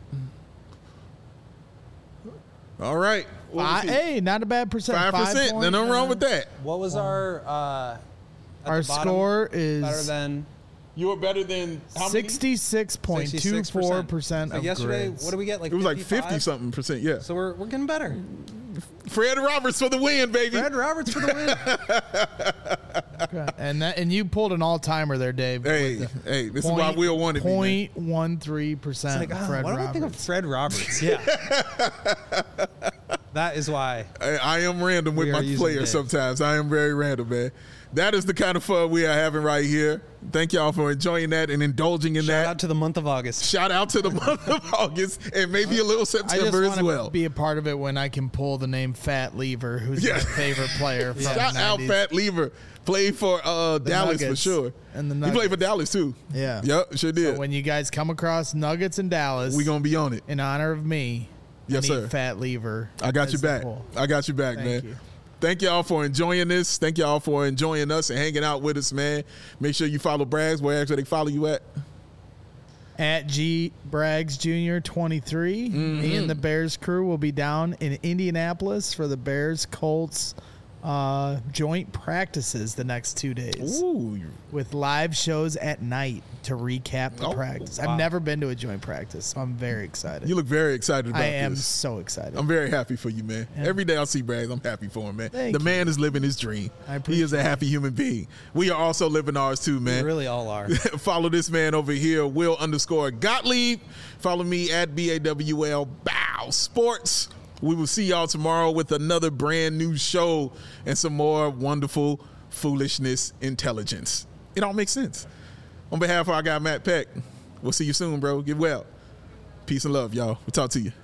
Speaker 1: All right. What was
Speaker 2: Five,
Speaker 1: he?
Speaker 2: hey, not a bad percent.
Speaker 1: Five percent.
Speaker 2: point-
Speaker 1: Nothing wrong with that.
Speaker 3: What was our uh, at
Speaker 2: Our
Speaker 3: the bottom,
Speaker 2: score
Speaker 3: better
Speaker 2: is
Speaker 3: than
Speaker 1: You were better than how many?
Speaker 2: sixty-six point two four percent
Speaker 3: So
Speaker 2: of
Speaker 3: yesterday,
Speaker 2: grids.
Speaker 3: what did we get? Like
Speaker 1: It was like
Speaker 3: fifty-five?
Speaker 1: fifty something percent. Yeah.
Speaker 3: So we're we're getting better.
Speaker 1: Fred Roberts for the win, baby.
Speaker 3: Fred Roberts for the win.
Speaker 2: Okay. And that, and you pulled an all timer there, Dave.
Speaker 1: Hey,
Speaker 2: with the
Speaker 1: hey, this is why Will wanted me. man.
Speaker 2: Point one three percent.
Speaker 3: Like, oh,
Speaker 2: Fred
Speaker 3: why do I think of
Speaker 2: Roberts.
Speaker 3: Fred Roberts? Yeah. That is why.
Speaker 1: I, I am random with
Speaker 3: We
Speaker 1: my
Speaker 3: are using
Speaker 1: players
Speaker 3: Dave.
Speaker 1: sometimes. I am very random, man. That is the kind of fun we are having right here. Thank y'all for enjoying that and indulging in
Speaker 3: Shout
Speaker 1: that.
Speaker 3: out to the month of August.
Speaker 1: Shout out to the month of August and maybe a little
Speaker 2: I just
Speaker 1: September
Speaker 2: want
Speaker 1: as
Speaker 2: to
Speaker 1: well.
Speaker 2: be a part of it when I can pull the name Fat Lever, who's
Speaker 1: Yeah.
Speaker 2: my favorite player from
Speaker 1: Shout
Speaker 2: the
Speaker 1: out
Speaker 2: nineties.
Speaker 1: Fat Lever. Played for uh, Dallas for
Speaker 2: Nuggets.
Speaker 1: sure.
Speaker 2: And the
Speaker 1: he played for
Speaker 2: Nuggets.
Speaker 1: Dallas too.
Speaker 2: Yeah.
Speaker 1: Yep, sure did.
Speaker 2: So when you guys come across Nuggets and Dallas,
Speaker 1: we gonna be on it.
Speaker 2: in honor of me,
Speaker 1: Yes,
Speaker 2: I need
Speaker 1: sir.
Speaker 2: Fat Lever.
Speaker 1: I got
Speaker 2: as
Speaker 1: you
Speaker 2: the
Speaker 1: back.
Speaker 2: pull.
Speaker 1: I got you back,
Speaker 2: Thank
Speaker 1: man.
Speaker 2: you.
Speaker 1: Thank y'all for enjoying this. Thank y'all for enjoying us and hanging out with us, man. Make sure you follow Brags. Where actually they follow you at?
Speaker 2: At G Braggs Junior twenty-three. Mm-hmm. Me and the Bears crew will be down in Indianapolis for the Bears Colts uh, joint practices the next two days.
Speaker 1: Ooh.
Speaker 2: With live shows at night to recap the
Speaker 1: Oh,
Speaker 2: practice.
Speaker 3: wow.
Speaker 2: I've never been to a joint practice, so I'm very excited.
Speaker 1: You look very excited about
Speaker 2: I
Speaker 1: this.
Speaker 2: am so excited.
Speaker 1: I'm very happy for you, man.
Speaker 2: Yeah.
Speaker 1: Every day I see Braggs, I'm happy for him, man.
Speaker 2: Thank
Speaker 1: the
Speaker 2: you.
Speaker 1: man is living his dream.
Speaker 2: I
Speaker 1: He is a
Speaker 2: appreciate
Speaker 1: happy human being. We are also living ours too,
Speaker 3: We
Speaker 1: man.
Speaker 3: really all are.
Speaker 1: Follow this man over here, Will underscore Gottlieb. Follow me at B A W L Bow Sports. We will see y'all tomorrow with another brand new show and some more wonderful foolishness intelligence. It all makes sense. On behalf of our guy, Matt Peck, we'll see you soon, bro. Get well. Peace and love, y'all. We'll talk to you.